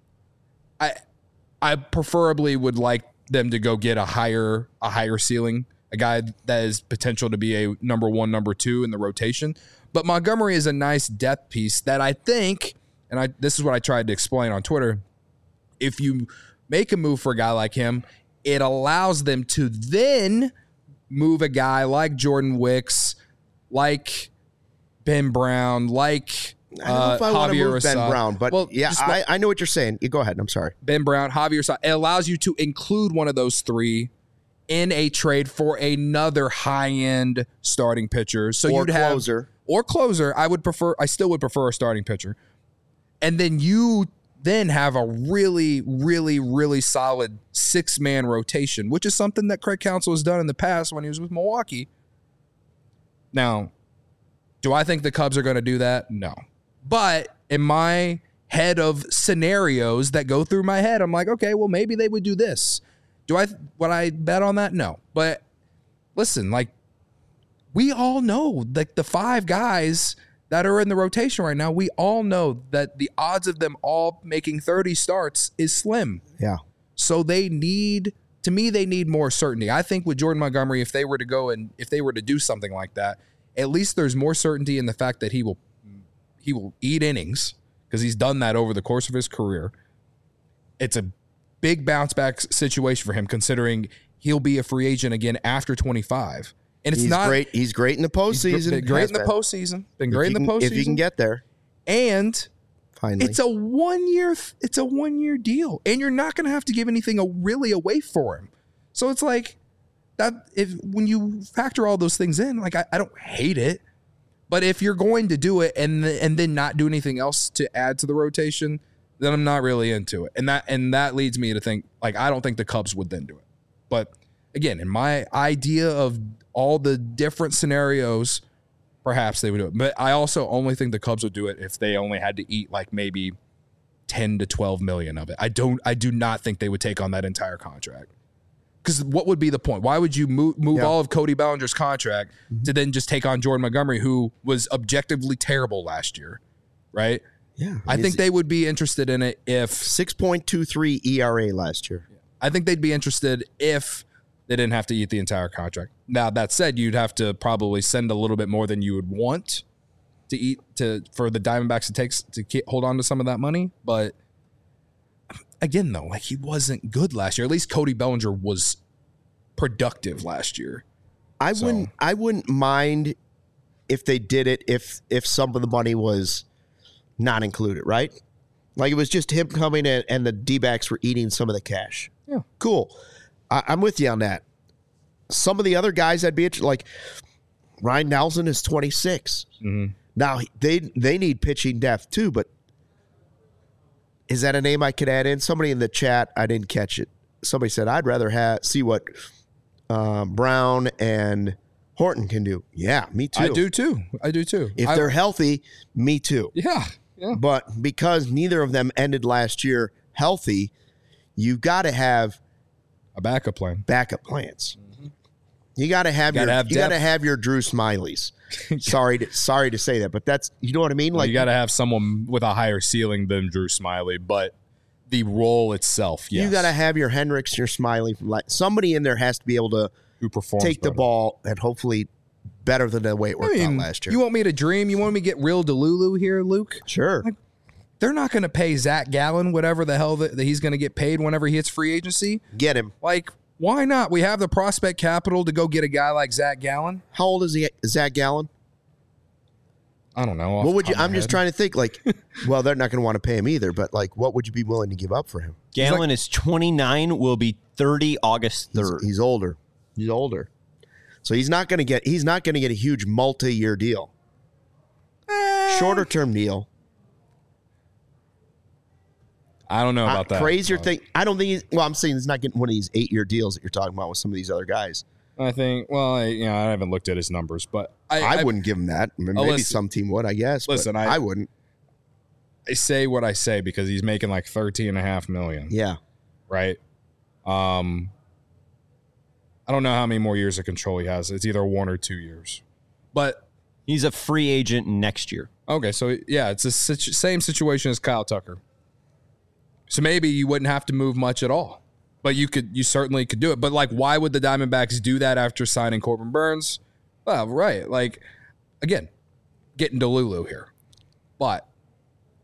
I preferably would like them to go get a higher ceiling, a guy that has potential to be a number 1, number 2 in the rotation. But Montgomery is a nice depth piece that I think, and this is what I tried to explain on Twitter, if you make a move for a guy like him, it allows them to then move a guy like Jordan Wicks, like Ben Brown, like I don't know if I want to Javier move Ben Assad. Brown, but yeah, I know what you're saying. You go ahead. I'm sorry. Ben Brown, Javier Assad. It allows you to include one of those three in a trade for another high-end starting pitcher. So Or you'd have closer. or closer. I still would prefer a starting pitcher. And then you then have a really, really, really solid 6-man rotation, which is something that Craig Counsell has done in the past when he was with Milwaukee. Now, do I think the Cubs are going to do that? No. But in my head of scenarios that go through my head, I'm like, okay, well, maybe they would do this. Would I bet on that? No. But listen, like, we all know, like, the 5 guys that are in the rotation right now, we all know that the odds of them all making 30 starts is slim. Yeah. So they need more certainty. I think with Jordan Montgomery, if they were to do something like that, at least there's more certainty in the fact that he will eat innings, because he's done that over the course of his career. It's a big bounce back situation for him, considering he'll be a free agent again after 25. And it's great. He's great in the postseason. Been great in the postseason. Been great in the postseason. If you can get there. And finally, it's a 1 year deal, and you're not going to have to give anything really away for him. So it's like that. When you factor all those things in, like, I don't hate it, but if you're going to do it and then not do anything else to add to the rotation, then I'm not really into it. And that leads me to think, like, I don't think the Cubs would then do it. But again, in my idea of all the different scenarios, perhaps they would do it. But I also only think the Cubs would do it if they only had to eat like maybe 10 to 12 million of it. I do not think they would take on that entire contract. Because what would be the point? Why would you move all of Cody Bellinger's contract to then just take on Jordan Montgomery, who was objectively terrible last year, right? Yeah. I think they would be interested in it if 6.23 ERA last year. I think they'd be interested if they didn't have to eat the entire contract. Now, that said, you'd have to probably send a little bit more than you would want for the Diamondbacks to hold on to some of that money. But again, though, like, he wasn't good last year. At least Cody Bellinger was productive last year. I wouldn't mind if they did it if some of the money was not included, right? Like, it was just him coming in and the D-backs were eating some of the cash. Yeah. Cool. I'm with you on that. Some of the other guys I'd be interested, like Ryan Nelson is 26. Mm-hmm. Now, they need pitching depth too, but is that a name I could add in? Somebody in the chat, I didn't catch it. Somebody said, I'd rather see what Brown and Horton can do. Yeah, me too. I do too. If they're healthy, me too. Yeah. But because neither of them ended last year healthy, you've got to have a backup plan. Backup plans. Mm-hmm. You got to have your Drew Smileys. Sorry to say that, but that's, you know what I mean? Like, you got to have someone with a higher ceiling than Drew Smiley, but the role itself, yes. You got to have your Hendricks, your Smiley. Somebody in there has to be able to take the ball and hopefully better than the way it worked out last year. You want me to dream? You want me to get real Delulu here, Luke? Sure. Like, they're not going to pay Zach Gallen whatever the hell that he's going to get paid whenever he hits free agency. Get him. Like, why not? We have the prospect capital to go get a guy like Zach Gallen. How old is Zach Gallen? I don't know. What would you? I'm just trying to think. Like, well, they're not going to want to pay him either. But like, what would you be willing to give up for him? Gallen is 29. Will be 30 August 3rd. He's older. So he's not going to get a huge multi-year deal. Shorter term deal. I don't know about that. Crazier thing. I don't think. I'm saying he's not getting one of these 8-year deals that you're talking about with some of these other guys. I think. Well, I haven't looked at his numbers, but I wouldn't give him that. I mean, maybe some team would, I guess. Listen, I wouldn't. I say what I say because he's making like $13.5 million. Yeah. Right. I don't know how many more years of control he has. It's either 1 or 2 years, but he's a free agent next year. Okay, so yeah, it's the same situation as Kyle Tucker. So maybe you wouldn't have to move much at all, but you certainly could do it. But like, why would the Diamondbacks do that after signing Corbin Burns? Well, right. Like, again, getting Delulu here, but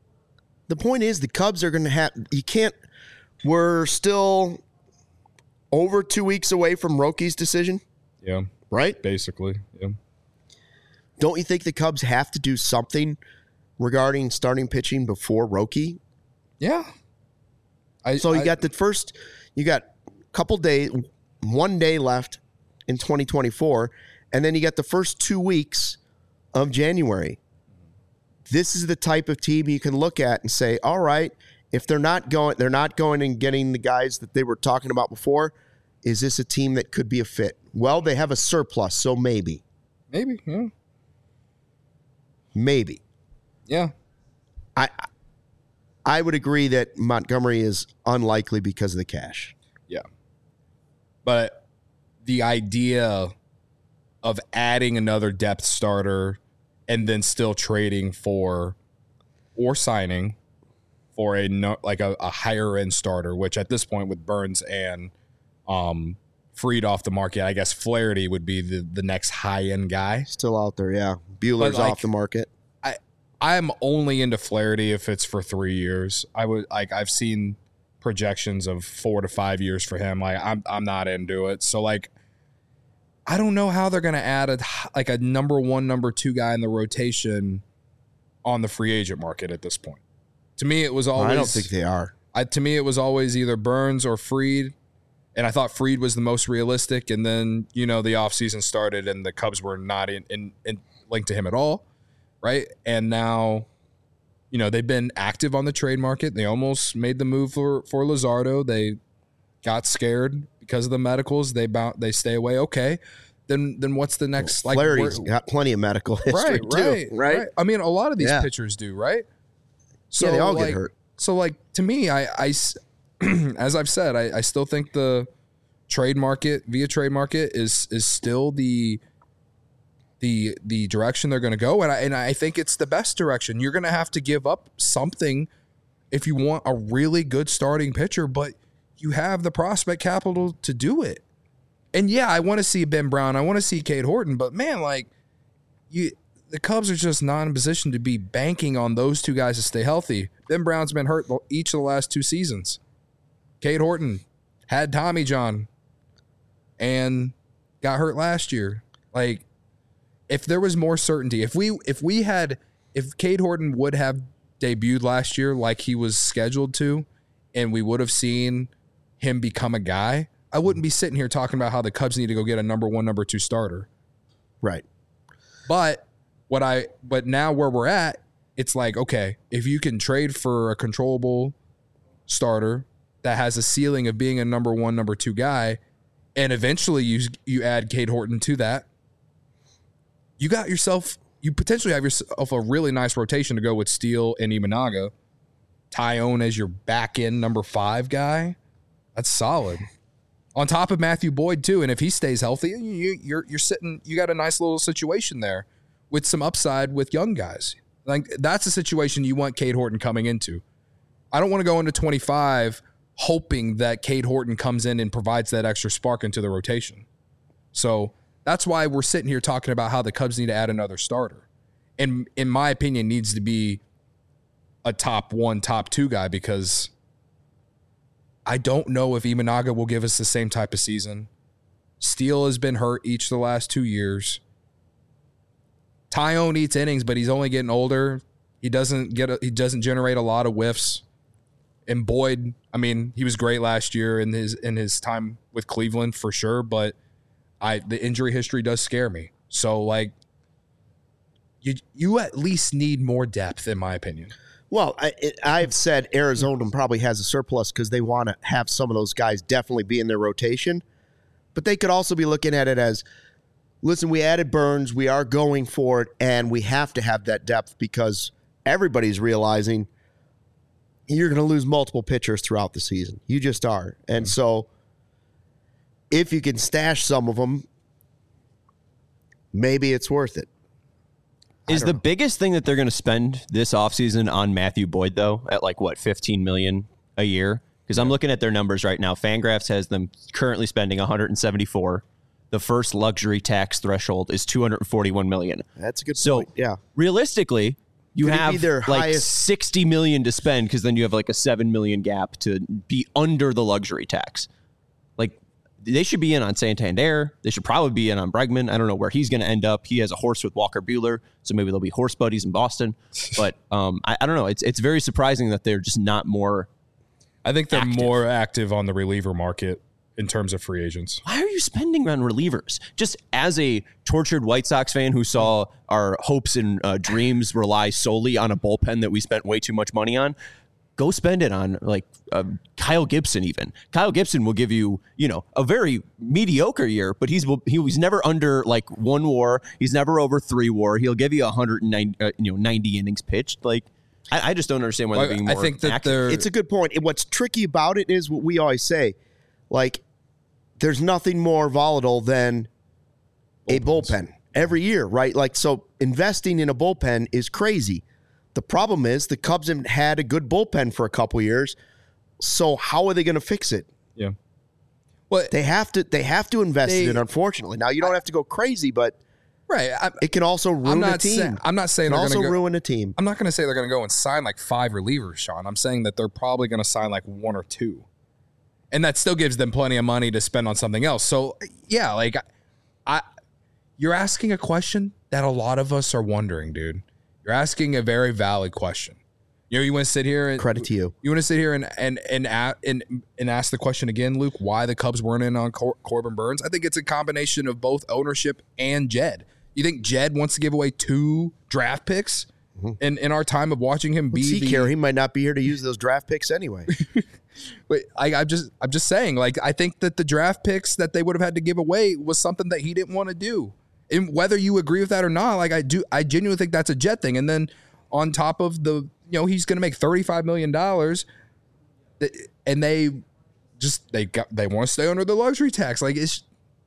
the point is the Cubs are going to have. You can't. We're still over 2 weeks away from Roki's decision, Yeah, right? basically. Yeah. Don't you think the Cubs have to do something regarding starting pitching before Roki? Yeah. You got a couple days, 1 day left in 2024, and then you got the first 2 weeks of January. This is the type of team you can look at and say, all right, if they're not going and getting the guys that they were talking about before, is this a team that could be a fit? Well, they have a surplus, so maybe. Maybe, yeah. Maybe. Yeah. I would agree that Montgomery is unlikely because of the cash. Yeah. But the idea of adding another depth starter and then still trading for or signing for a higher end starter, which at this point with Burns and Fried off the market, I guess Flaherty would be the next high end guy. Still out there, yeah. Buehler's off the market. I'm only into Flaherty if it's for 3 years. I've seen projections of 4 to 5 years for him. I'm not into it. So I don't know how they're going to add a number 1, number 2 guy in the rotation on the free agent market at this point. To me, it was always. I don't think they are. To me, it was always either Burns or Fried, and I thought Fried was the most realistic. And then the offseason started, and the Cubs were not in linked to him at all, right? And now, they've been active on the trade market. They almost made the move for Luzardo. They got scared because of the medicals. They stay away. Okay, then what's the next? Flaherty's got plenty of medical history too, right? I mean, a lot of these pitchers do, right? So they all get hurt. So to me, I as I've said, I still think the trade market is still the direction they're going to go, and I think it's the best direction. You're going to have to give up something if you want a really good starting pitcher, but you have the prospect capital to do it. And yeah, I want to see Ben Brown, I want to see Cade Horton, but man, the Cubs are just not in a position to be banking on those two guys to stay healthy. Ben Brown's been hurt each of the last 2 seasons. Cade Horton had Tommy John and got hurt last year. If there was more certainty, if Cade Horton would have debuted last year like he was scheduled to, and we would have seen him become a guy, I wouldn't be sitting here talking about how the Cubs need to go get a number 1, number 2 starter. Right. But now where we're at, it's okay, if you can trade for a controllable starter that has a ceiling of being a number 1, number 2 guy, and eventually you add Cade Horton to that, you potentially have yourself a really nice rotation to go with Steele and Imanaga. Tyone as your back end number 5 guy. That's solid. On top of Matthew Boyd too, and if he stays healthy, you're sitting. You got a nice little situation there with some upside with young guys. That's a situation you want Cade Horton coming into. I don't want to go into 25 hoping that Cade Horton comes in and provides that extra spark into the rotation. So that's why we're sitting here talking about how the Cubs need to add another starter. And in my opinion, needs to be a top 1, top 2 guy, because I don't know if Imanaga will give us the same type of season. Steele has been hurt each of the last 2 years. Tyone eats innings, but he's only getting older. He doesn't generate a lot of whiffs. And Boyd, I mean, he was great last year in his time with Cleveland for sure, but the injury history does scare me. So you at least need more depth, in my opinion. Well, I've said Arizona probably has a surplus because they want to have some of those guys definitely be in their rotation. But they could also be looking at it as, listen, we added Burns, we are going for it, and we have to have that depth because everybody's realizing you're going to lose multiple pitchers throughout the season. You just are. And so if you can stash some of them, maybe it's worth it. Is the biggest thing that they're going to spend this offseason on Matthew Boyd, though, at $15 million a year? Because I'm looking at their numbers right now. Fangraphs has them currently spending $174. The first luxury tax threshold is $241 million. That's a good point. Yeah. Realistically, you have $60 million to spend, because then you have a $7 million gap to be under the luxury tax. they should be in on Santander. They should probably be in on Bregman. I don't know where he's going to end up. He has a horse with Walker Buehler, so maybe they'll be horse buddies in Boston. But I don't know. It's very surprising that they're just not more. I think they're active. more active on the reliever market in terms of free agents. Why are you spending on relievers? Just as a tortured White Sox fan who saw our hopes and dreams rely solely on a bullpen that we spent way too much money on, go spend it on like Kyle Gibson. Even Kyle Gibson will give you, a very mediocre year, but he was never under like 1 WAR. He's never over 3 WAR. He'll give you 190, 90 innings pitched. Like I just don't understand why they're being more. I think that active. It's a good point. And what's tricky about it is what we always say, like there's nothing more volatile than a bullpen every year, right? Like so, investing in a bullpen is crazy. The problem is the Cubs haven't had a good bullpen for a couple years. So how are they going to fix it? Yeah. Well, they have to invest in it, unfortunately. Now you don't have to go crazy, but right. It can also ruin a team. I'm not saying it can they're also going to ruin a team. I'm not going to say they're going to go and sign like 5 relievers, Sean. I'm saying that they're probably going to sign like 1 or 2. And that still gives them plenty of money to spend on something else. So, yeah, like you're asking a question that a lot of us are wondering, dude. You're asking a very valid question. You want to sit here and credit to you. You want to sit here and ask the question again, Luke, why the Cubs weren't in on Corbin Burnes? I think it's a combination of both ownership and Jed. You think Jed wants to give away 2 draft picks in our time of watching him be he might not be here to use those draft picks anyway. But I'm just saying, like, I think that the draft picks that they would have had to give away was something that he didn't want to do. And whether you agree with that or not, like I genuinely think that's a Jet thing. And then on top of the, he's going to make $35 million, and they want to stay under the luxury tax. Like, is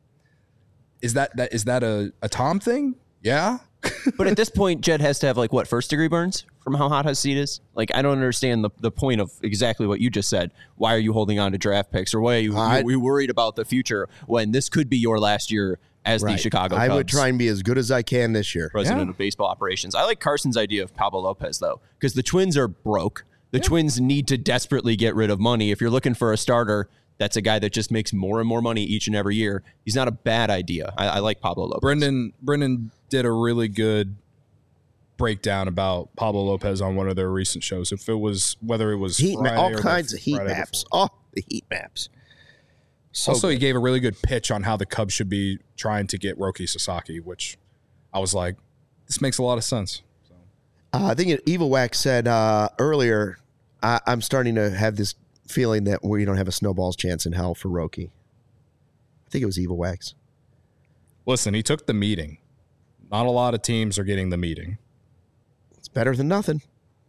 that a Tom thing? Yeah. But at this point, Jed has to have like what, 1st-degree burns from how hot his seat is? Like, I don't understand the point of exactly what you just said. Why are you holding on to draft picks, or why are you worried about the future when this could be your last year as the Chicago Cubs? I would try and be as good as I can this year. President of baseball operations. I like Carson's idea of Pablo Lopez though, because the Twins are broke. The Twins need to desperately get rid of money. If you're looking for a starter, that's a guy that just makes more and more money each and every year. He's not a bad idea. I like Pablo Lopez. Brendan did a really good breakdown about Pablo Lopez on one of their recent shows. Whether it was all kinds of heat maps. Oh, the heat maps. Also, he gave a really good pitch on how the Cubs should be trying to get Roki Sasaki, which I was like, this makes a lot of sense. So. I think Evil Wax said earlier, I'm starting to have this feeling that we don't have a snowball's chance in hell for Roki. I think it was Evil Wax. Listen, he took the meeting. Not a lot of teams are getting the meeting. It's better than nothing.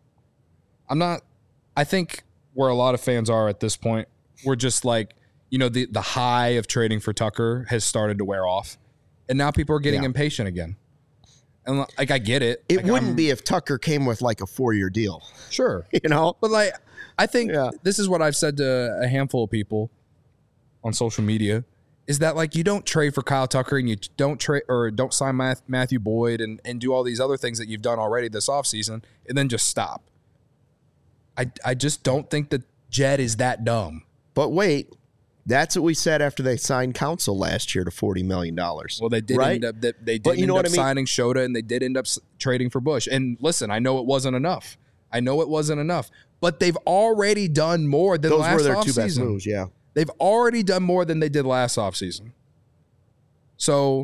I think where a lot of fans are at this point, we're just like, the high of trading for Tucker has started to wear off. And now people are getting impatient again. And like, I get it. It wouldn't be if Tucker came with like a 4-year deal. Sure. But like, I think this is what I've said to a handful of people on social media, is that like, you don't trade for Kyle Tucker and you don't trade or don't sign Matthew Boyd and do all these other things that you've done already this offseason and then just stop. I just don't think that Jed is that dumb. But wait, that's what we said after they signed Counsell last year to $40 million. Well, they did end up signing Shota, and they did end up trading for Bush. And listen, I know it wasn't enough. But they've already done more than last offseason. Those were their 2 best moves, yeah. They've already done more than they did last offseason. So,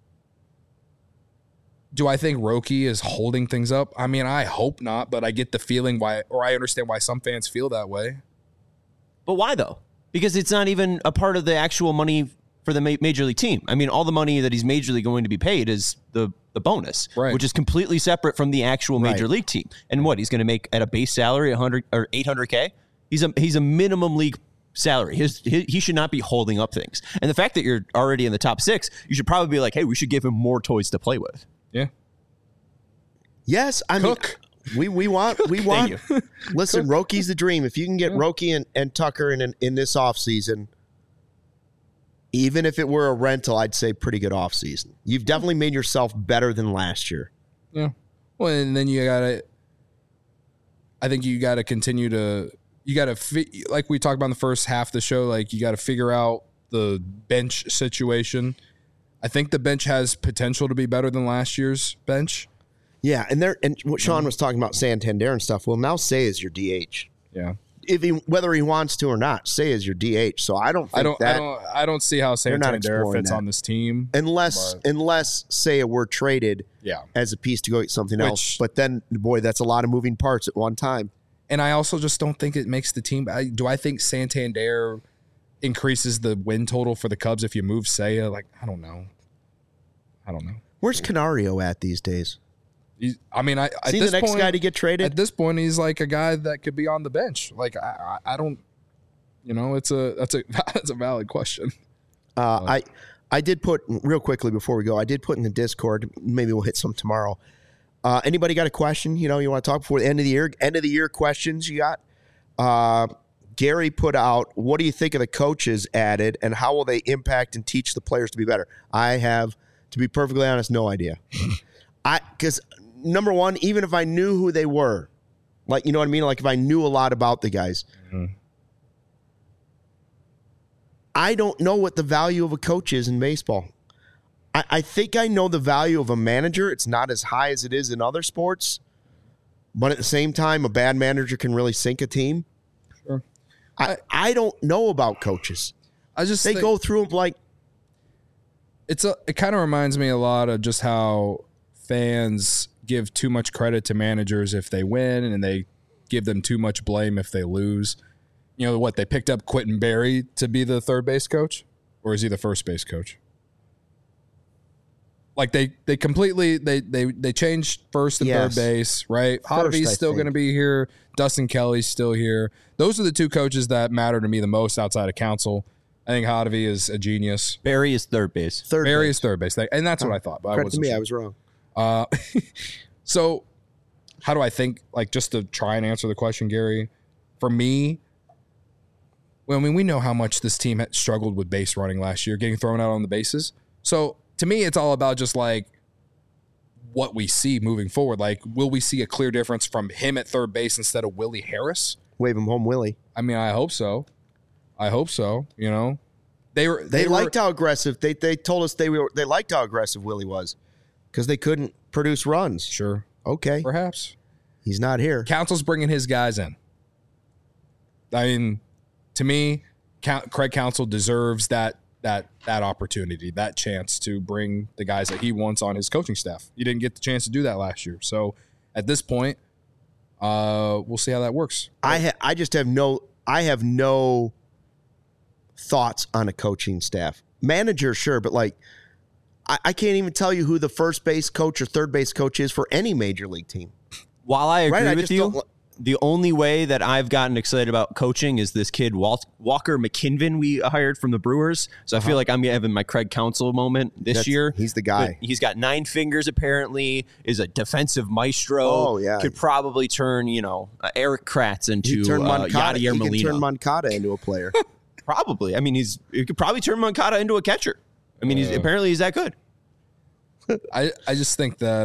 do I think Roki is holding things up? I mean, I hope not, but I get the feeling I understand why some fans feel that way. But why though? Because it's not even a part of the actual money for the major league team. I mean, all the money that he's majorly going to be paid is the bonus, which is completely separate from the actual major league team. And what he's going to make at a base salary, 100 or 800K. He's a minimum league salary. He should not be holding up things. And the fact that you're already in the top 6, you should probably be like, hey, we should give him more toys to play with. Yeah. Yes, I mean, we want. Listen, Roki's the dream. If you can get Roki and Tucker in this offseason, even if it were a rental, I'd say pretty good offseason. You've definitely made yourself better than last year. Yeah. Well, and then I think you got to continue to, like we talked about in the first half of the show, like you got to figure out the bench situation. I think the bench has potential to be better than last year's bench. Yeah, and what Sean was talking about Santander and stuff. Well, now Say is your DH. Yeah. Whether he wants to or not, Say is your DH. So I don't don't see how Santander fits on this team unless Say were traded as a piece to go get something else. But then, boy, that's a lot of moving parts at one time. And I also just don't think it makes the team. Do I think Santander increases the win total for the Cubs if you move Seiya? Like, I don't know. Where's Canario at these days? Is he the next guy to get traded? At this point, he's like a guy that could be on the bench. Like, I don't. That's a valid question. I did put real quickly before we go. I did put in the Discord. Maybe we'll hit some tomorrow. Anybody got a question? You want to talk before the end of the year? End of the year questions you got? Gary put out, what do you think of the coaches added, and how will they impact and teach the players to be better? I have, to be perfectly honest, no idea. Because number one, even if I knew who they were, like, you know what I mean? Like if I knew a lot about the guys, I don't know what the value of a coach is in baseball. I think I know the value of a manager. It's not as high as it is in other sports. But at the same time, a bad manager can really sink a team. Sure. I don't know about coaches. They go through them like. It kind of reminds me a lot of just how fans give too much credit to managers if they win, and they give them too much blame if they lose. They picked up Quentin Berry to be the third base coach, or is he the first base coach? Like they completely they changed first and third base, right? Hottovy's still going to be here. Dustin Kelly's still here. Those are the two coaches that matter to me the most outside of Counsell. I think Hottovy is a genius. Barry is third base. Barry is third base, and that's what I thought. But credit to me, I was wrong. So how do I think? Like, just to try and answer the question, Gary. For me, we know how much this team had struggled with base running last year, getting thrown out on the bases. So to me, it's all about just like what we see moving forward. Like, will we see a clear difference from him at third base instead of Willie Harris? Wave him home, Willie. I hope so. They liked how aggressive they told us they liked how aggressive Willie was because they couldn't produce runs. Sure. Okay. Perhaps. He's not here. Counsell's bringing his guys in. To me, Craig Counsell deserves that opportunity, that chance to bring the guys that he wants on his coaching staff. He didn't get the chance to do that last year. So at this point, we'll see how that works. I have no thoughts on a coaching staff. Manager, sure, but like I can't even tell you who the first base coach or third base coach is for any major league team. While I agree with you, the only way that I've gotten excited about coaching is this kid, Walker McKinven, we hired from the Brewers. So I feel like I'm having my Craig Counsell moment this year. He's the guy. But he's got 9 fingers, apparently, is a defensive maestro. Oh, yeah. Could probably turn, Eric Kratz into Yadier Molina. He can turn Moncada into a player. Probably. He could probably turn Moncada into a catcher. Apparently he's that good. I just think that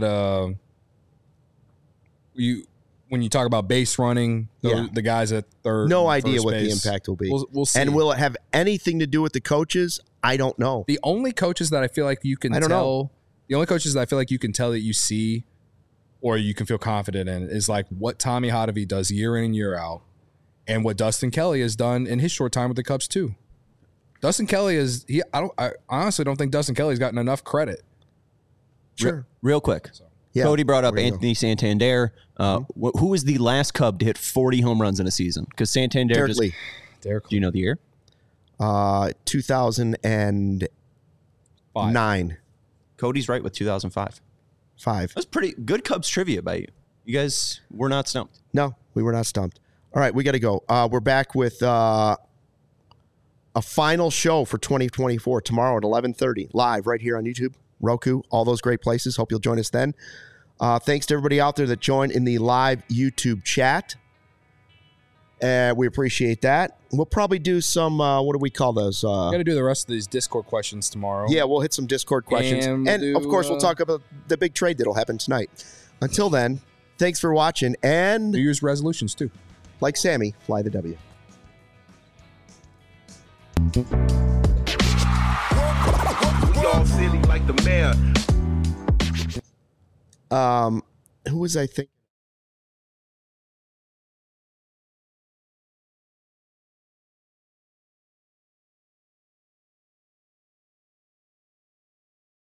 when you talk about base running, the guys at third, no idea what the impact will be. We'll see. And will it have anything to do with the coaches? I don't know. The only coaches that I feel like you can tell, the only coaches that I feel like you can tell that you see or you can feel confident in is like what Tommy Hottovy does year in and year out, and what Dustin Kelly has done in his short time with the Cubs too. Dustin Kelly I honestly don't think Dustin Kelly's gotten enough credit. Sure. Real quick. Yeah, Cody brought up Anthony Santander. Who was the last Cub to hit 40 home runs in a season? Because Santander Derek Lee. Do you know the year? 2009. Cody's right with 2005. 5. That's pretty good Cubs trivia by you. You guys were not stumped. No, we were not stumped. All right, we got to go. We're back with a final show for 2024 tomorrow at 11:30 live right here on YouTube, Roku, all those great places. Hope you'll join us then. Thanks to everybody out there that joined in the live YouTube chat. We appreciate that. We'll probably do some, what do we call those? Got to do the rest of these Discord questions tomorrow. Yeah, we'll hit some Discord questions. And of course, we'll talk about the big trade that'll happen tonight. Until then, thanks for watching. And New Year's resolutions, too. Like Sammy, fly the W. All city like the mayor. Who was I think?